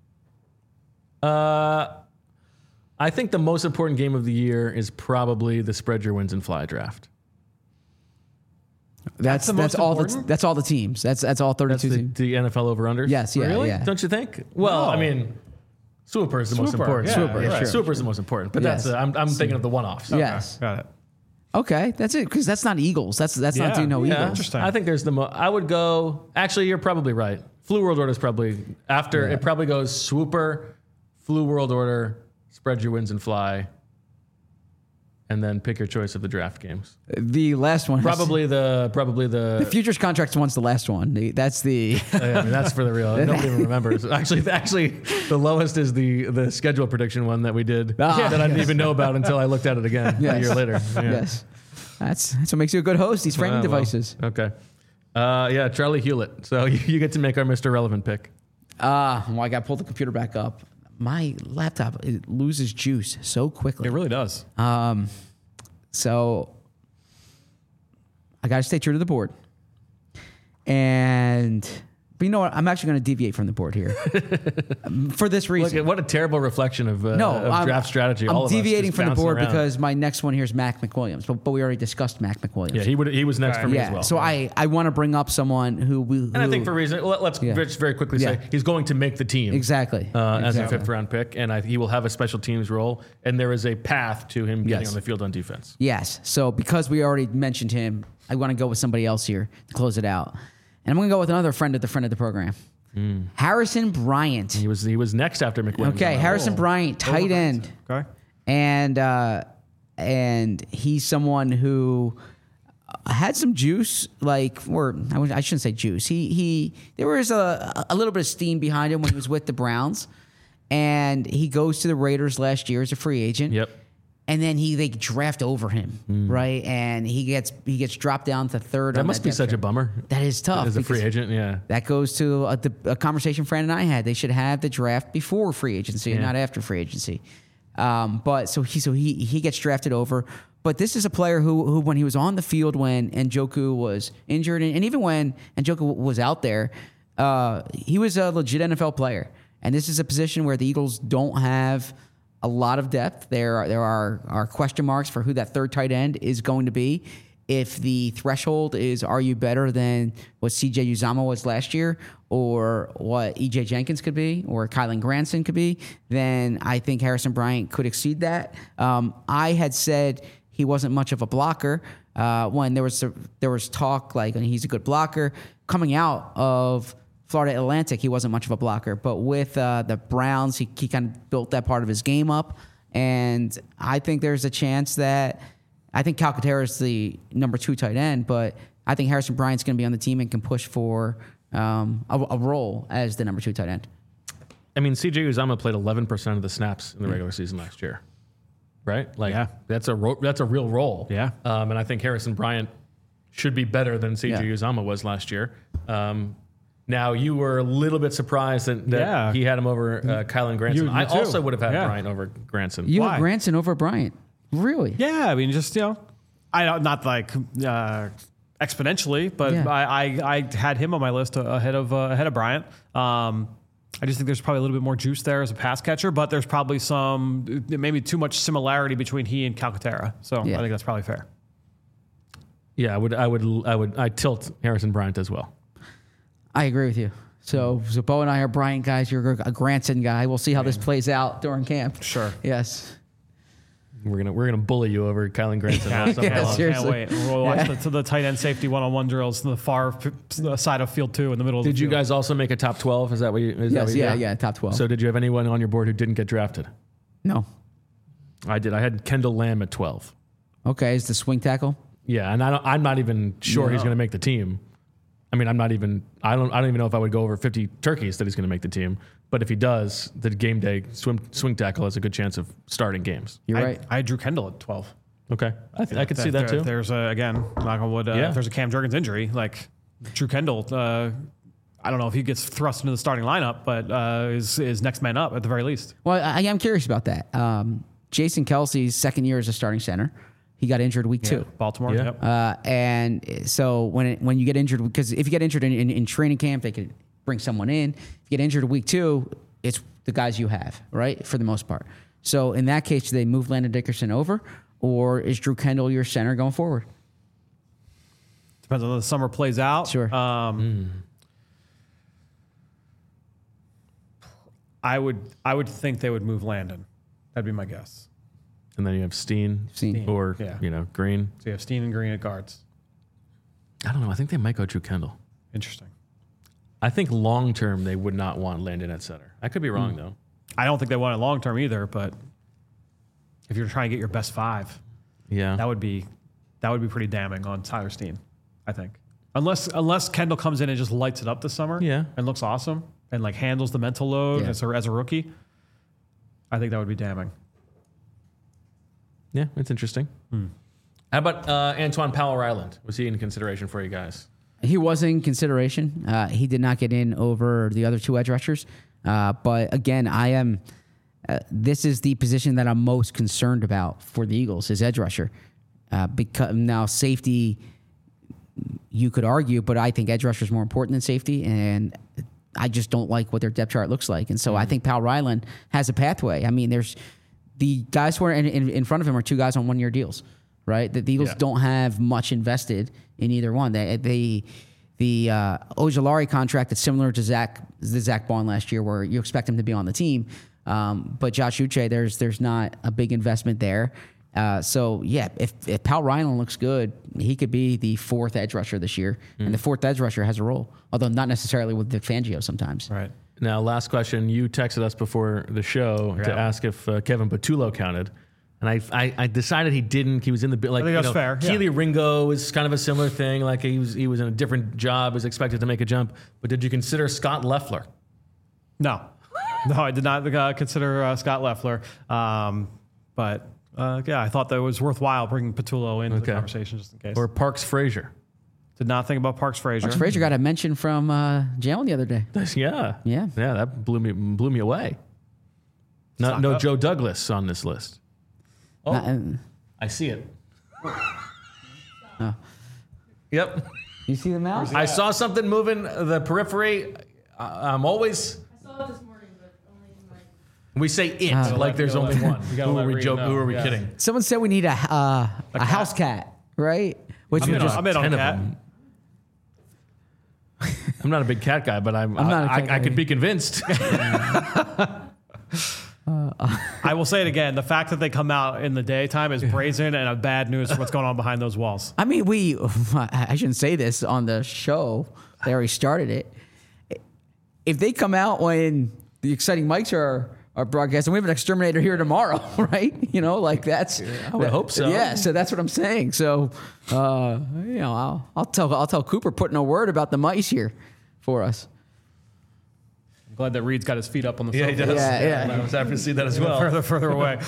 Uh, I think the most important game of the year is probably the spread your wins and fly draft. That's the that's, most all the important? that's all the teams. That's that's all That's thirty-two the, teams. the N F L over unders. Yes, yeah, really? yeah. Don't you think? Well, No. I mean, Swooper is the most Swooper, important. yeah, Swooper, yeah, sure, Swooper is the most important. But Yes. that's uh, I'm I'm thinking of the one offs. Yes. Got it. Okay, that's it. Because that's not Eagles. That's that's not Yeah, do no yeah. Eagles. Interesting. I think there's the mo- I would go. Actually, you're probably right. Flu World Order is probably after. Yeah. It probably goes Swooper, Flu World Order, spread your wins and fly, and then pick your choice of the draft games. The last one. has- Probably the probably the. the futures contracts one's the last one. The- That's the. I mean, that's for the real. Nobody even remembers. Actually, actually, the lowest is the the schedule prediction one that we did Ah, that I didn't yes. even know about until I looked at it again a Yes. year later. Yeah. Yes. That's that's what makes you a good host. These framing Ah, well, devices. Okay. Uh, yeah, Charlie Hewlett. So you, you get to make our Mister Relevant pick. Ah, well, I got to pull the computer back up. My laptop it loses juice so quickly. It really does. Um, so I got to stay true to the board. And But you know what? I'm actually going to deviate from the board here for this Look reason. at what a terrible reflection of, uh, no, of I'm, draft strategy. I'm All of us deviating just from the bouncing board around. because my next one here is Mac McWilliams, but, but we already discussed Mac McWilliams. yeah, he would he was next for me yeah. as well. So I, I want to bring up someone who we. and I think for reason, let, let's Yeah. just very quickly Yeah. say he's going to make the team exactly uh, as a exactly. fifth round pick, and I, he will have a special teams role, and there is a path to him getting Yes. on the field on defense. Yes. So because we already mentioned him, I want to go with somebody else here to close it out, and I'm going to go with another friend of the friend of the program, Mm. Harrison Bryant. He was he was next after McWilliams. Okay, on that Harrison list. Bryant, tight end. Okay. and uh, and he's someone who had some juice, like, or I wouldn't- I shouldn't say juice. He he there was a a little bit of steam behind him when he was with the Browns, and he goes to the Raiders last year as a free agent. Yep. And then he they draft over him, right? And he gets he gets dropped down to third. That on must be depth such a chart. bummer. That is tough As a free because agent, yeah. That goes to a, the, a conversation Fran and I had. They should have the draft before free agency and Yeah. not after free agency. Um, but so he so he he gets drafted over. But this is a player who who when he was on the field when Njoku was injured and, and even when Njoku was out there, uh, he was a legit N F L player. And this is a position where the Eagles don't have a lot of depth. There are, there are, are question marks for who that third tight end is going to be. If the threshold is, are you better than what C J Uzomah was last year or what E J Jenkins could be or Kylan Granson could be, then I think Harrison Bryant could exceed that. Um, I had said he wasn't much of a blocker uh, when there was, there was talk like he's a good blocker. Coming out of Florida Atlantic, he wasn't much of a blocker, but with uh, the Browns, he, he kind of built that part of his game up. And I think there's a chance that I think Calcaterra is the number two tight end, but I think Harrison Bryant's going to be on the team and can push for um, a, a role as the number two tight end. I mean, C J Uzomah played eleven percent of the snaps in the regular season last year, right? Like, Yeah. that's a ro- that's a real role. Yeah. Um, and I think Harrison Bryant should be better than C J Yeah. Uzomah was last year. Um, now, you were a little bit surprised that, that Yeah. he had him over uh, Kylan Granson. You- you I too. also would have had Yeah. Bryant over Granson. You Why? have Granson over Bryant. Really? Yeah, I mean, just you know, I don't not like uh, exponentially, but Yeah. I, I I had him on my list ahead of uh, ahead of Bryant. Um, I just think there's probably a little bit more juice there as a pass catcher, but there's probably some maybe too much similarity between he and Calcaterra. So Yeah. I think that's probably fair. Yeah, I would, I would, I would, I tilt Harrison Bryant as well. I agree with you. So, so Bo and I are Bryant guys. You're a Granson guy. We'll see how this plays out during camp. Sure. Yes. We're gonna, we're gonna bully you over Kylan Granson. all summer Yeah, long. Can't seriously. wait. We'll watch the, to the tight end safety one-on-one drills to the far f- side of field two in the middle of Did the you field. guys also make a top twelve? Is that what you? Is that Yes. what you Yeah. did? Yeah. Top twelve. So did you have anyone on your board who didn't get drafted? no. I did. I had Kendall Lamb at twelve. Okay. Is the swing tackle? Yeah, and I don't, I'm not even sure he's No. going to make the team. I mean, I'm not even. I don't. I don't even know if I would go over fifty turkeys that he's going to make the team. But if he does, the game day swim, swing tackle has a good chance of starting games. You're I, right. I drew Kendall at twelve. Okay, I, th- I could see that If too. There's a, again, knock on wood, uh, Yeah. if there's a Cam Jurgens injury, like Drew Kendall, uh, I don't know if he gets thrust into the starting lineup, but uh, is is next man up at the very least. Well, I, I'm curious about that. Um, Jason Kelsey's second year as a starting center. He got injured week two. Baltimore. Yeah. Yep. Uh, and so when it, when you get injured, because if you get injured in, in, in training camp, they could bring someone in. If you get injured week two, it's the guys you have, right, for the most part. So in that case, do they move Landon Dickerson over, or is Drew Kendall your center going forward? Depends on how the summer plays out. Sure. Um, I would I would think they would move Landon. That'd be my guess. And then you have Steen, Steen. or Yeah. you know Green. So you have Steen and Green at guards. I don't know. I think they might go Drew Kendall. Interesting. I think long term they would not want Landon at center. I could be wrong though. I don't think they want it long term either, but if you're trying to get your best five, Yeah, that would be that would be pretty damning on Tyler Steen, I think. Unless unless Kendall comes in and just lights it up this summer, Yeah. and looks awesome and like handles the mental load Yeah. as a as a rookie, I think that would be damning. yeah, it's interesting. How about uh, Antoine Powell Ryland? Was he in consideration for you guys? He was in consideration. Uh, he did not get in over the other two edge rushers. Uh, but again, I am. Uh, this is the position that I'm most concerned about for the Eagles, is edge rusher. Uh, because now safety, um, you could argue, but I think edge rusher is more important than safety, and I just don't like what their depth chart looks like. And so mm-hmm. I think Powell Ryland has a pathway. I mean, there's the guys who are in, in, in front of him are two guys on one year deals, right? The, the Eagles yeah. don't have much invested in either one. They, they the uh, Ojulari contract is similar to Zach the Zach Bond last year, where you expect him to be on the team, um, but Josh Uche, there's there's not a big investment there. Uh, so yeah, if if Powell Ryland looks good, he could be the fourth edge rusher this year, mm. and the fourth edge rusher has a role, although not necessarily with Vic Fangio sometimes. Right. Now, last question. You texted us before the show yeah. to ask if uh, Kevin Patullo counted. And I, I, I decided he didn't. He was in the like. I think you that's know, fair. Keely Yeah. Ringo is kind of a similar thing. Like he was, he was in a different job, was expected to make a jump. But did you consider Scott Loeffler? No, no, I did not uh, consider uh, Scott Loeffler. Um, but uh, yeah, I thought that it was worthwhile bringing Patullo into Okay. the conversation just in case. Or Parks Frazier? Did not think about Parks Frazier. Parks Frazier got a mention from uh, Jalen the other day. Yeah, Yeah. yeah. That blew me blew me away. Not, Stock no up. Joe Douglas on this list. Oh, Not- uh, I see it. Oh. Yep. You see the mouse? I saw something moving the periphery. I, I'm always. I saw it this morning, but only in my. We say it Uh, like there's you gotta only let- one. you gotta Who are let we Reed joking? know, Who are we yeah. kidding? Someone said we need a uh, a, house cat, right? Which I'm would in, just on, I'm in on ten of cat. them. I'm not a big cat guy, but I'm. I'm not a I, cat I, I guy. could be convinced. I will say it again. The fact that they come out in the daytime is brazen and a bad news for what's going on behind those walls. I mean, we. I shouldn't say this on the show. They already started it. If they come out when the exciting mics are are broadcasting, we have an exterminator here tomorrow, right? You know, like that's. I would hope so. Yeah, so that's what I'm saying. So, uh, you know, I'll, I'll tell I'll tell Cooper putting a word about the mice here for us. I'm glad that Reed's got his feet up on the Yeah, sofa. he does. Yeah, yeah. I was happy to see that as well. Further, further away.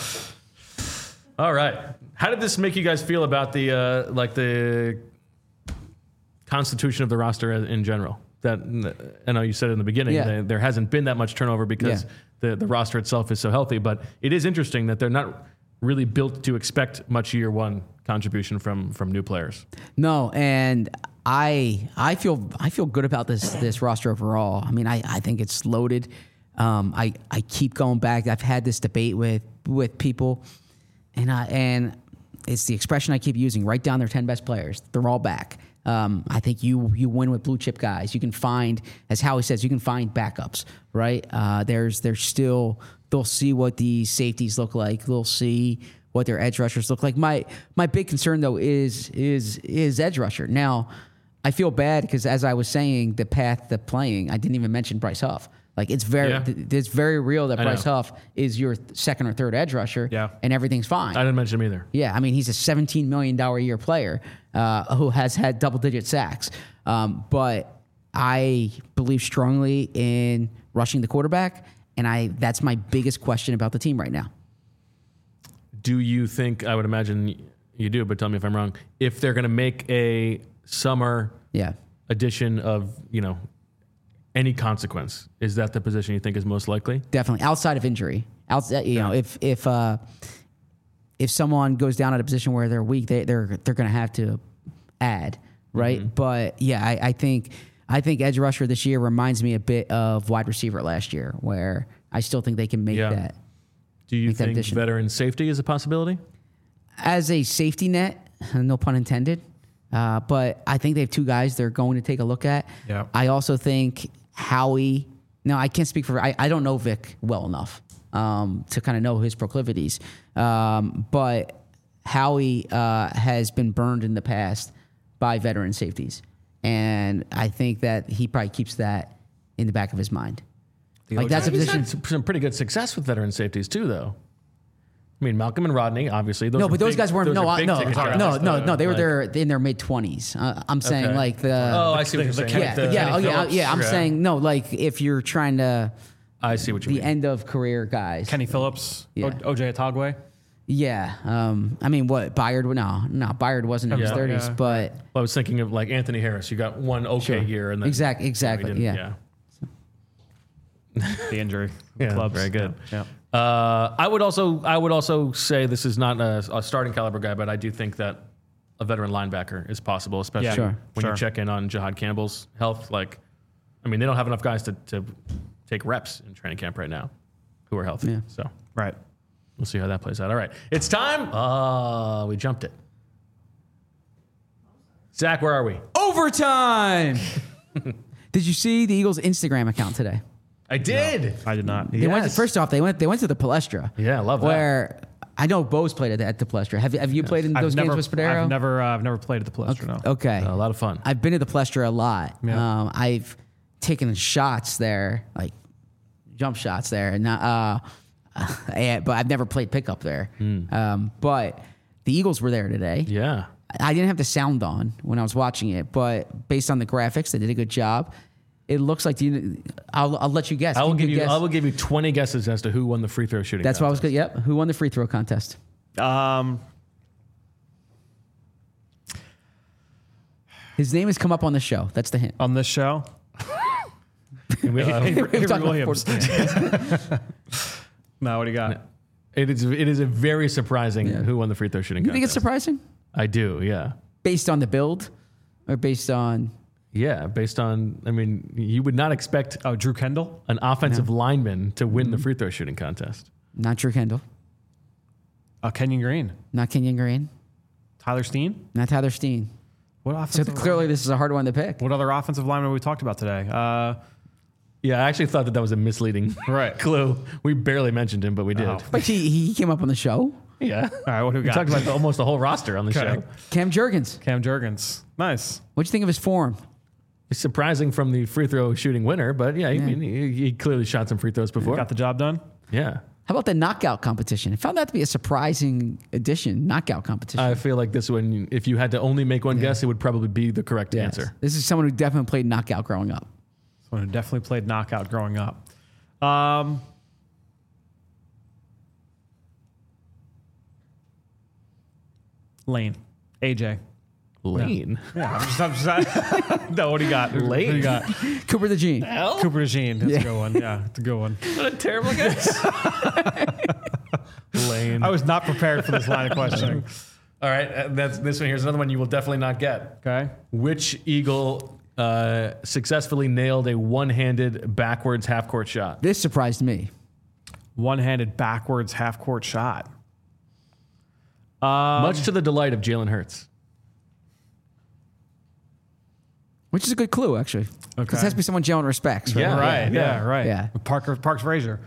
All right. How did this make you guys feel about the uh, like the constitution of the roster in general? That I know you said in the beginning Yeah. that there hasn't been that much turnover because Yeah. the, the roster itself is so healthy, but it is interesting that they're not really built to expect much year one contribution from from new players. No, and I I feel I feel good about this this roster overall. I mean, I, I think it's loaded. Um, I I keep going back. I've had this debate with with people, and I and it's the expression I keep using. Write down their ten best players. They're all back. Um, I think you you win with blue chip guys. You can find, as Howie says, you can find backups, right? Uh, there's there's still they'll see what the safeties look like. They'll see what their edge rushers look like. My my big concern though is is is edge rusher. Now, I feel bad because as I was saying, the path to playing, I didn't even mention Bryce Huff. Like it's very Yeah. th- it's very real that I Bryce know. Huff is your th- second or third edge rusher, Yeah. and everything's fine. I didn't mention him either. Yeah, I mean, he's a seventeen million dollars a year player uh, who has had double-digit sacks. Um, but I believe strongly in rushing the quarterback, and I that's my biggest question about the team right now. Do you think, I would imagine you do, but tell me if I'm wrong, if they're going to make a summer Yeah. addition of, you know, any consequence, is that the position you think is most likely? Definitely outside of injury. Outside, you know, if if uh, if someone goes down at a position where they're weak, they, they're they're going to have to add, right? Mm-hmm. But yeah, I, I think I think edge rusher this year reminds me a bit of wide receiver last year, where I still think they can make Yeah. that Do you Make that think addition. veteran safety is a possibility? as a safety net. No pun intended. Uh, but I think they have two guys they're going to take a look at. Yeah. I also think Howie. No, I can't speak for. I, I don't know Vic well enough um, to kind of know his proclivities. Um, but Howie uh, has been burned in the past by veteran safeties, and I think that he probably keeps that in the back of his mind. Like that's a He's position. had some some pretty good success with veteran safeties too, though. I mean, Malcolm and Rodney, obviously. Those No, are but those big- guys weren't. those No, are I- big no, ticket no, drafts, no, though. no. They were Like- there in their mid twenties. Uh, I'm saying Okay. like the. Oh, I see what the- you're the saying. yeah, the yeah, oh, Kenny yeah, Phillips. yeah. I'm Yeah. saying no. Like if you're trying to I see what you the mean. end of career guys. Kenny Phillips, Yeah. o- O J Atogwe. Yeah. Um. I mean, what Byard? would- No, no. Byard wasn't in his Yeah. thirties, Yeah. but Well, I was thinking of like Anthony Harris. You got one okay Sure. year, and then Exact- you know, he exactly, didn't- yeah. The injury. The Yeah, clubs. very good. Yeah. Uh, I would also I would also say this is not a, a starting caliber guy, but I do think that a veteran linebacker is possible, especially Yeah, Sure. when sure. you check in on Jihad Campbell's health. Like, I mean, they don't have enough guys to, to take reps in training camp right now who are healthy. Yeah. So Right. we'll see how that plays out. All right. It's time. Uh, we jumped it. Zach, where are we? Overtime. Did you see the Eagles' Instagram account today? I did. I did not. They went to, Yes. first off, they went they went to the Palestra. Yeah, I love that. Where I know Bo's played at the, at the Palestra. Have you have you played in those I've never, games with Spadero? I've never, uh, I've never played at the Palestra. No. Okay. A lot of fun. I've been to the Palestra a lot. Yeah. Um, I've taken shots there, like jump shots there, and not, uh, and- but I've never played pickup there. Um, but the Eagles were there today. Yeah. I didn't have the sound on when I was watching it, but based on the graphics, they did a good job. It looks like the. I'll, I'll let you guess. I will Can give you. guess? I will give you twenty guesses as to who won the free throw shooting. That's what I was contest. good. Yep. Who won the free throw contest? Um, His name has come up on the show. That's the hint. on this show, We- uh, We're Avery talking about Williams. Fort- No, what do you got? it is. It is a very surprising Yeah. who won the free throw shooting. You think it's contest. surprising? I do. Yeah. Based on the build, or based on? Yeah. Based on. I mean, you would not expect Oh, Drew Kendall. an offensive lineman to win the Mm-hmm. free throw shooting contest. Not Drew Kendall. Uh, Kenyon Green. Not Kenyon Green. Tyler Steen. Not Tyler Steen. What So offensive? clearly, this is a hard one to pick. What other offensive lineman we talked about today? Uh, Yeah, I actually thought that that was a misleading Right. clue. We barely mentioned him, but we did. Oh. But he, he came up on the show. Yeah. all right, what do we We got? talked about the, almost the whole roster on the Okay. show. Cam Jurgens. Cam Jurgens. Nice. What'd you think of his form? It's surprising from the free throw shooting winner, but yeah, He, he, he clearly shot some free throws before. Got the job done. Yeah. How about the knockout competition? I found that to be a surprising addition. Knockout competition. I feel like this one, if you had to only make one guess, it would probably be the correct Yes. answer. This is someone who definitely played knockout growing up. Someone who definitely played knockout growing up. Um, Lane. A J. Lane. Yeah, I'm just, I'm just no, what do you got? What do Lane. you got? Cooper the Gene. Hell? Cooper DeJean. That's Yeah. a good one. Yeah, it's a good one. What a terrible guess. Lane. I was not prepared for this line of questioning. All right. uh, That's this one. Here's another one you will definitely not get. Okay. Which Eagle uh, successfully nailed a one-handed backwards half-court shot? This surprised me. One-handed backwards half-court shot. Um, Much to the delight of Jalen Hurts. Which is a good clue, actually. Because Okay. it has to be someone Jalen respects, right? Yeah. Right. Yeah. Yeah. Right. Yeah. Parker Parks Frazier.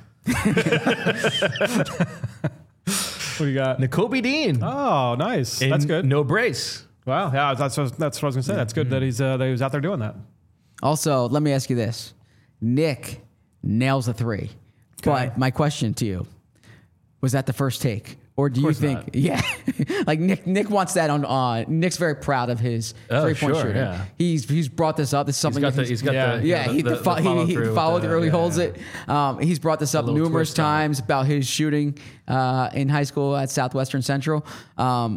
What do you got? N'Kobe Dean. Oh, nice. In That's good. No brace. Wow. Yeah, that's what, that's what I was gonna say. That's good that he's uh, that he was out there doing that. Also, let me ask you this. Nick nails a three. But my question to you, was that the first take? Or do you course think, not. yeah, like Nick, Nick wants that on. Uh, Nick's very proud of his Oh, three-point sure, shooting. yeah. He's he's brought this up. This is He's something got that the. He's got yeah. the. yeah, the, he, the, the, fo- the he, follow he through with followed the- through. He yeah, holds yeah. it. Um, he's brought this up little numerous twist on it. times about his shooting uh, in high school at Southwestern Central. Um,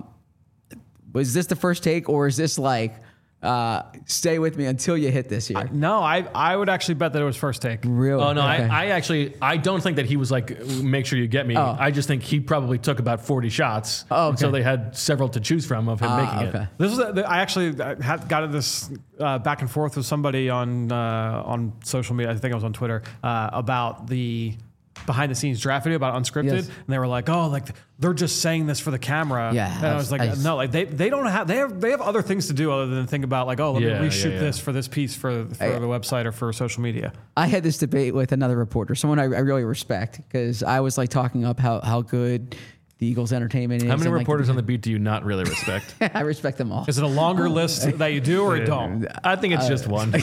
was this the first take, or is this like uh, stay with me until you hit this here? No, I I would actually bet that it was first take. Really? Oh no, Okay. I, I actually I don't think that he was like make sure you get me. Oh. I just think he probably took about forty shots. Oh, okay. So they had several to choose from of him Ah, making okay. it. This was a, I actually uh, had got this uh, back and forth with somebody on uh, on social media. I think I was on Twitter uh, about the behind the scenes draft video about unscripted, Yes. and they were like, "Oh, like they're just saying this for the camera." Yeah, and I was like, I- "No, like they, they don't have they have they have other things to do other than think about like, oh, let Yeah, me reshoot yeah, yeah. this for this piece for for I- the website or for social media." I had this debate with another reporter, someone I, I really respect, because I was like talking up how, how good the Eagles entertainment is. How many and, like, reporters on the beat do you not really respect? I respect them all. Is it a longer list that you do or you don't? I think it's just one.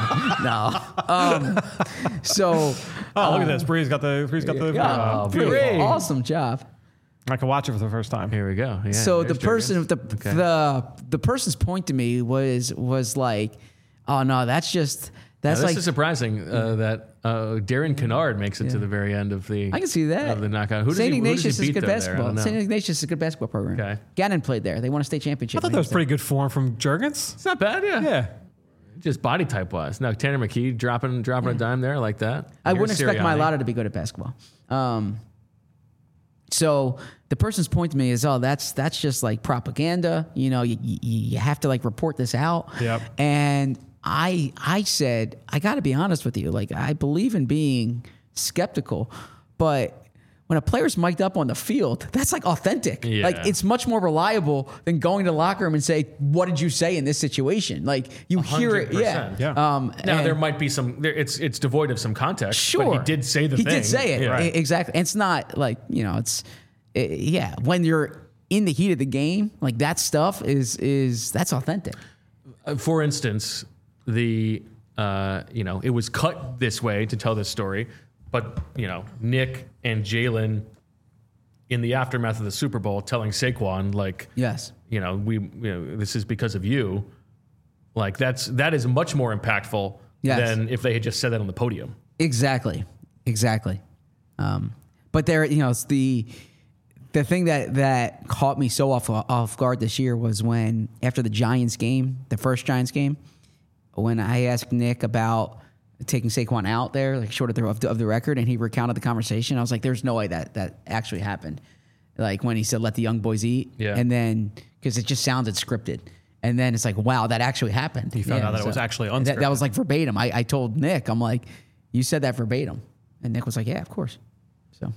No. Um, so, Oh, look at this. Bree's got the Bree's got the. yeah, uh, beautiful. Bree. Awesome job. I can watch it for the first time. Here we go. Yeah, so the there's person, Jurgens. the, Okay. the the person's point to me was was like, oh no, that's just Now, that's this like is surprising uh, that uh, Darren Kennard makes it to the very end of the. I can see that. of the knockout. Who does Saint he, who does he Ignatius is beat good though there? I basketball. don't know. Saint Ignatius is a good basketball program. Okay. Gannon played there. They won a state championship. I thought that was pretty good form from Jurgens. It's not bad. Yeah. Yeah. Just body type wise. Now Tanner McKee dropping dropping a dime there like that. I Here's wouldn't expect Sirianni. Mylotta to be good at basketball. Um, So the person's point to me is, oh, that's that's just like propaganda. You know, you, you, you have to like report this out. Yep. And I I said, I got to be honest with you. Like, I believe in being skeptical, but when a player's mic'd up on the field, that's like authentic. Yeah. Like, it's much more reliable than going to the locker room and say, what did you say in this situation? Like, you hear it. Yeah. one hundred percent. Yeah. Um, Now and- there might be some. There, it's it's devoid of some context. Sure, but he did say the he thing. did say it. Yeah. E- exactly. And it's not like, you know, it's it, yeah. When you're in the heat of the game, like, that stuff is is that's authentic. Uh, For instance, the uh, you know it was cut this way to tell this story, but you know Nick and Jalen in the aftermath of the Super Bowl telling Saquon, like, Yes. you know we you know this is because of you. Like, that's that is much more impactful Yes. than if they had just said that on the podium. Exactly. Exactly. Um, but there, you know, it's the the thing that that caught me so off off guard this year was when, after the Giants game, the first Giants game, when I asked Nick about taking Saquon out there, like, short of the, of the of the record, and he recounted the conversation, I was like, "There's no way that that actually happened." Like, when he said, "Let the young boys eat," Yeah. and then because it just sounded scripted, and then it's like, "Wow, that actually happened." He found out that it was actually That, that unscripted. was like verbatim. I, I told Nick, I'm like, "You said that verbatim," and Nick was like, "Yeah, of course." So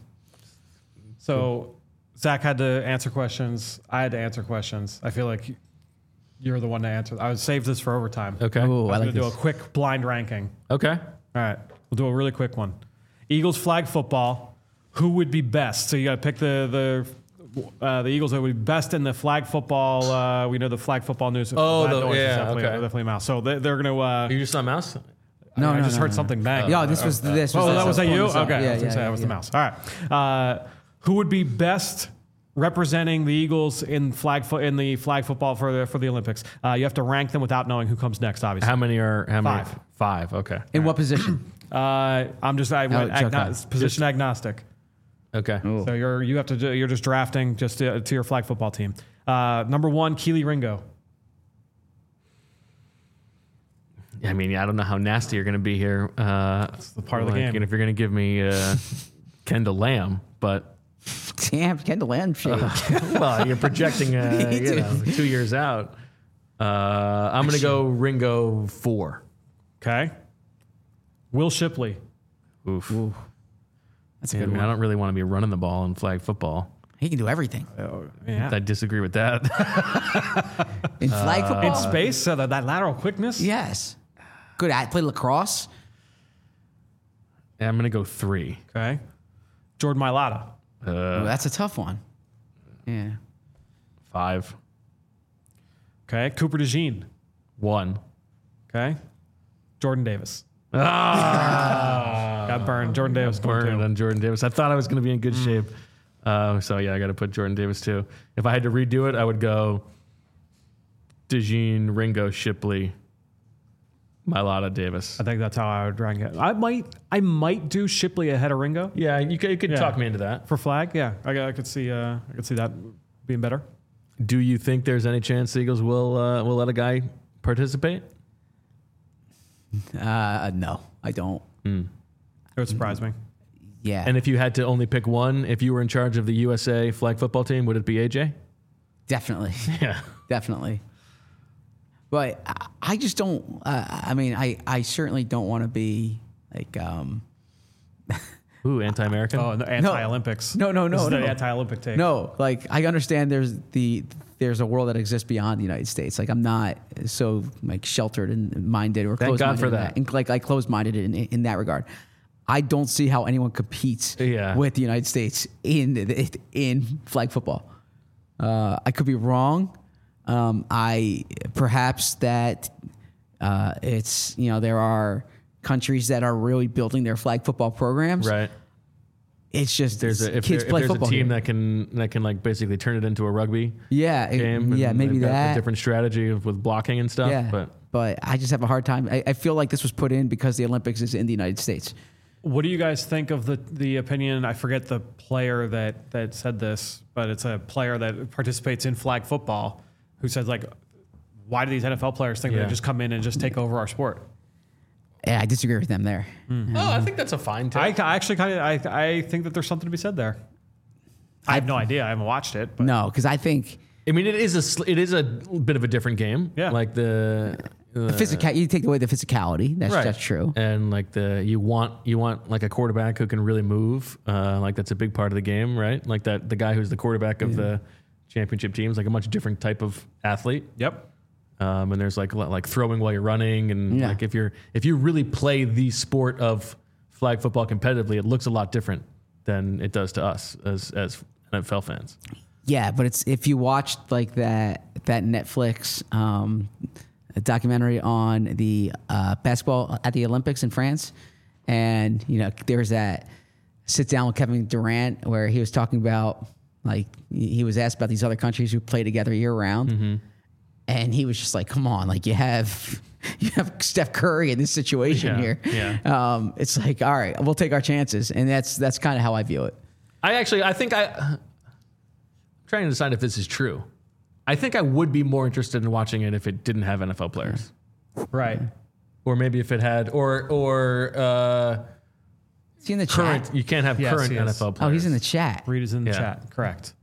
So Zach had to answer questions. I had to answer questions. I feel like you're the one to answer. I would save this for overtime. Okay. Ooh, I I'm like going to do a this. quick blind ranking. Okay. All right. We'll do a really quick one. Eagles flag football. Who would be best? So you got to pick the the uh, the Eagles that would be best in the flag football. Uh, we know the flag football news. Oh, that the- noise is yeah, definitely, okay. definitely a mouse. So they, they're going to. Uh, You just saw a mouse. no, I no, just no, heard no. something bang. yeah, this was this was. Oh, this that was that on you? the side. Okay, I Yeah, was gonna yeah, say that yeah, was yeah. the mouse. All right. Uh, who would be best representing the Eagles in flag fo- in the flag football for the for the Olympics? Uh, you have to rank them without knowing who comes next. Obviously, How many are how many? Five. Five. Okay. In what position? uh, I'm just I went Oh, Chuck agno- Hunt. position agnostic. Okay. So you're you have to do, you're just drafting just to, to your flag football team. Uh, number one, Keely Ringo. I mean, yeah, I don't know how nasty you're going to be here. Uh, That's the part of the game. And if you're going to give me uh, Kendall Lamb, but Damn, Kendall Land shade. well, you're projecting uh, you know, two years out. Uh, I'm going to go Ringo four. Okay. Will Shipley. Oof. That's a Yeah, I good mean, one. I don't really want to be running the ball in flag football. He can do everything Oh, yeah. I disagree with that. in flag football. In space, so that, that lateral quickness. Yes, good at play lacrosse. I'm going to go three. Okay. Jordan Mailata. Ooh, that's a tough one. Yeah, Five. Okay. Cooper DeJean. One. Okay. Jordan Davis. Got burned. Jordan Davis. going Burned two. on Jordan Davis. I thought I was going to be in good shape. Uh, so, yeah, I got to put Jordan Davis, too. If I had to redo it, I would go DeJean, Ringo, Shipley, Mailata, Davis. I think that's how I would rank it. I might, I might do Shipley ahead of Ringo Yeah, you could, you could Yeah. talk me into that. for flag. Yeah, I, I could see, uh, I could see that being better. Do you think there's any chance the Eagles will uh, will let a guy participate? uh, no, I don't. It would surprise me. Yeah, And if you had to only pick one, if you were in charge of the U S A flag football team, would it be A J? definitely, Yeah. definitely. But I, I just don't. Uh, I mean, I, I certainly don't want to be like. Um, Ooh, anti-American. Oh, the anti-Olympics. No, no, no, This is no. the anti-Olympic take. No, like, I understand there's the there's a world that exists beyond the United States. Like, I'm not so like sheltered and minded or Thank closed God minded for in that. And, like, like closed minded in in that regard. I don't see how anyone competes Yeah. with the United States in in flag football. Uh, I could be wrong. Um, I perhaps that uh, it's you know there are countries that are really building their flag football programs. Right. It's just There's a, if, kids there, if play there's a football team here. that can that can like basically turn it into a rugby yeah, it- game. yeah, and maybe they've got that. a different strategy of- with blocking and stuff. Yeah, But but I just have a hard time. I, I feel like this was put in because the Olympics is in the United States. What do you guys think of the the opinion? I forget the player that that said this, but it's a player that participates in flag football who says like, why do these N F L players think Yeah. they just come in and just take over our sport? Yeah, I disagree with them there. oh, I think that's a fine take. I, I actually kind of I, I think that there's something to be said there. I have no idea. I haven't watched it. But No, because I think I mean, it is a sl- it is a bit of a different game. Yeah. Like the. the physical. You take away the physicality. That's Right. that's true. And like the you want you want like a quarterback who can really move. Uh, like that's a big part of the game, right? Like that the guy who's the quarterback of the championship team is like a much different type of athlete. Yep. Um, and there's like a lot- like throwing while you're running, and Yeah. like if you're if you really play the sport of flag football competitively, it looks a lot different than it does to us as as N F L fans. Yeah, but it's if you watched like that that Netflix um, documentary on the uh, basketball at the Olympics in France, and you know there was that sit down with Kevin Durant where he was talking about like he was asked about these other countries who play together year round, Mm-hmm. and he was just like, "Come on, like you have." You have Steph Curry in this situation Yeah, here. yeah. Um, it's like, all right, we'll take our chances, and that's that's kind of how I view it. I actually I think I I'm trying to decide if this is true. I think I would be more interested in watching it if it didn't have N F L players. Right. Or maybe if it had or or uh, Is he in the current chat? you can't have Yes, current he N is. F L players. Oh, he's in the chat. Reed is in the Yeah. chat. Correct.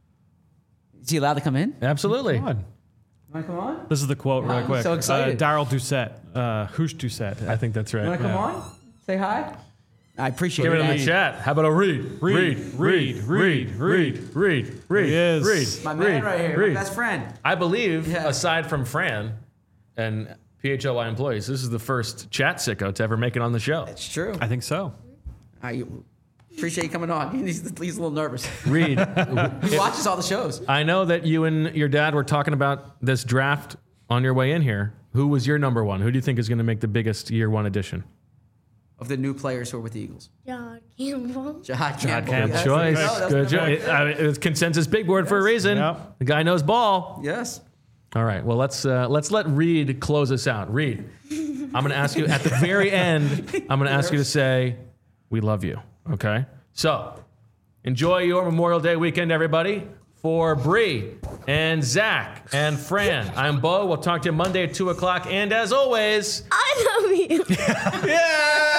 Is he allowed to come in? Absolutely. Come on. Want to come on? This is the quote really I'm quick. so excited. Uh, Daryl Doucette. Uh, Hoosh Doucette. I think that's right. You want to come Yeah. on? Say hi. I appreciate Give it it. in the guys. chat. How about a read? Reed, read, Reed, read, read, read, read, He is. read. My man read, right here, read. my best friend. I believe, Yeah. aside from Fran and P H L Y employees, this is the first chat sicko to ever make it on the show. It's true. I think so. I appreciate you coming on. He's, he's a little nervous. Reed, He watches all the shows. I know that you and your dad were talking about this draft on your way in here. Who was your number one? Who do you think is going to make the biggest year one addition? Of the new players who are with the Eagles. John Campbell. Jahad Campbell. Campbell. Yes, Choice. there you go. That's Good the choice. number- I mean, it's consensus big board for a reason. Yep. The guy knows ball. Yes. All right. Well, let's uh, let's let Reed close us out. Reed, I'm going to ask you at the very end. I'm going to ask you to say, "We love you." Okay. So, enjoy your Memorial Day weekend, everybody. For Bree and Zach and Fran, I'm Bo. We'll talk to you Monday at two o'clock. And as always, I love you. yeah.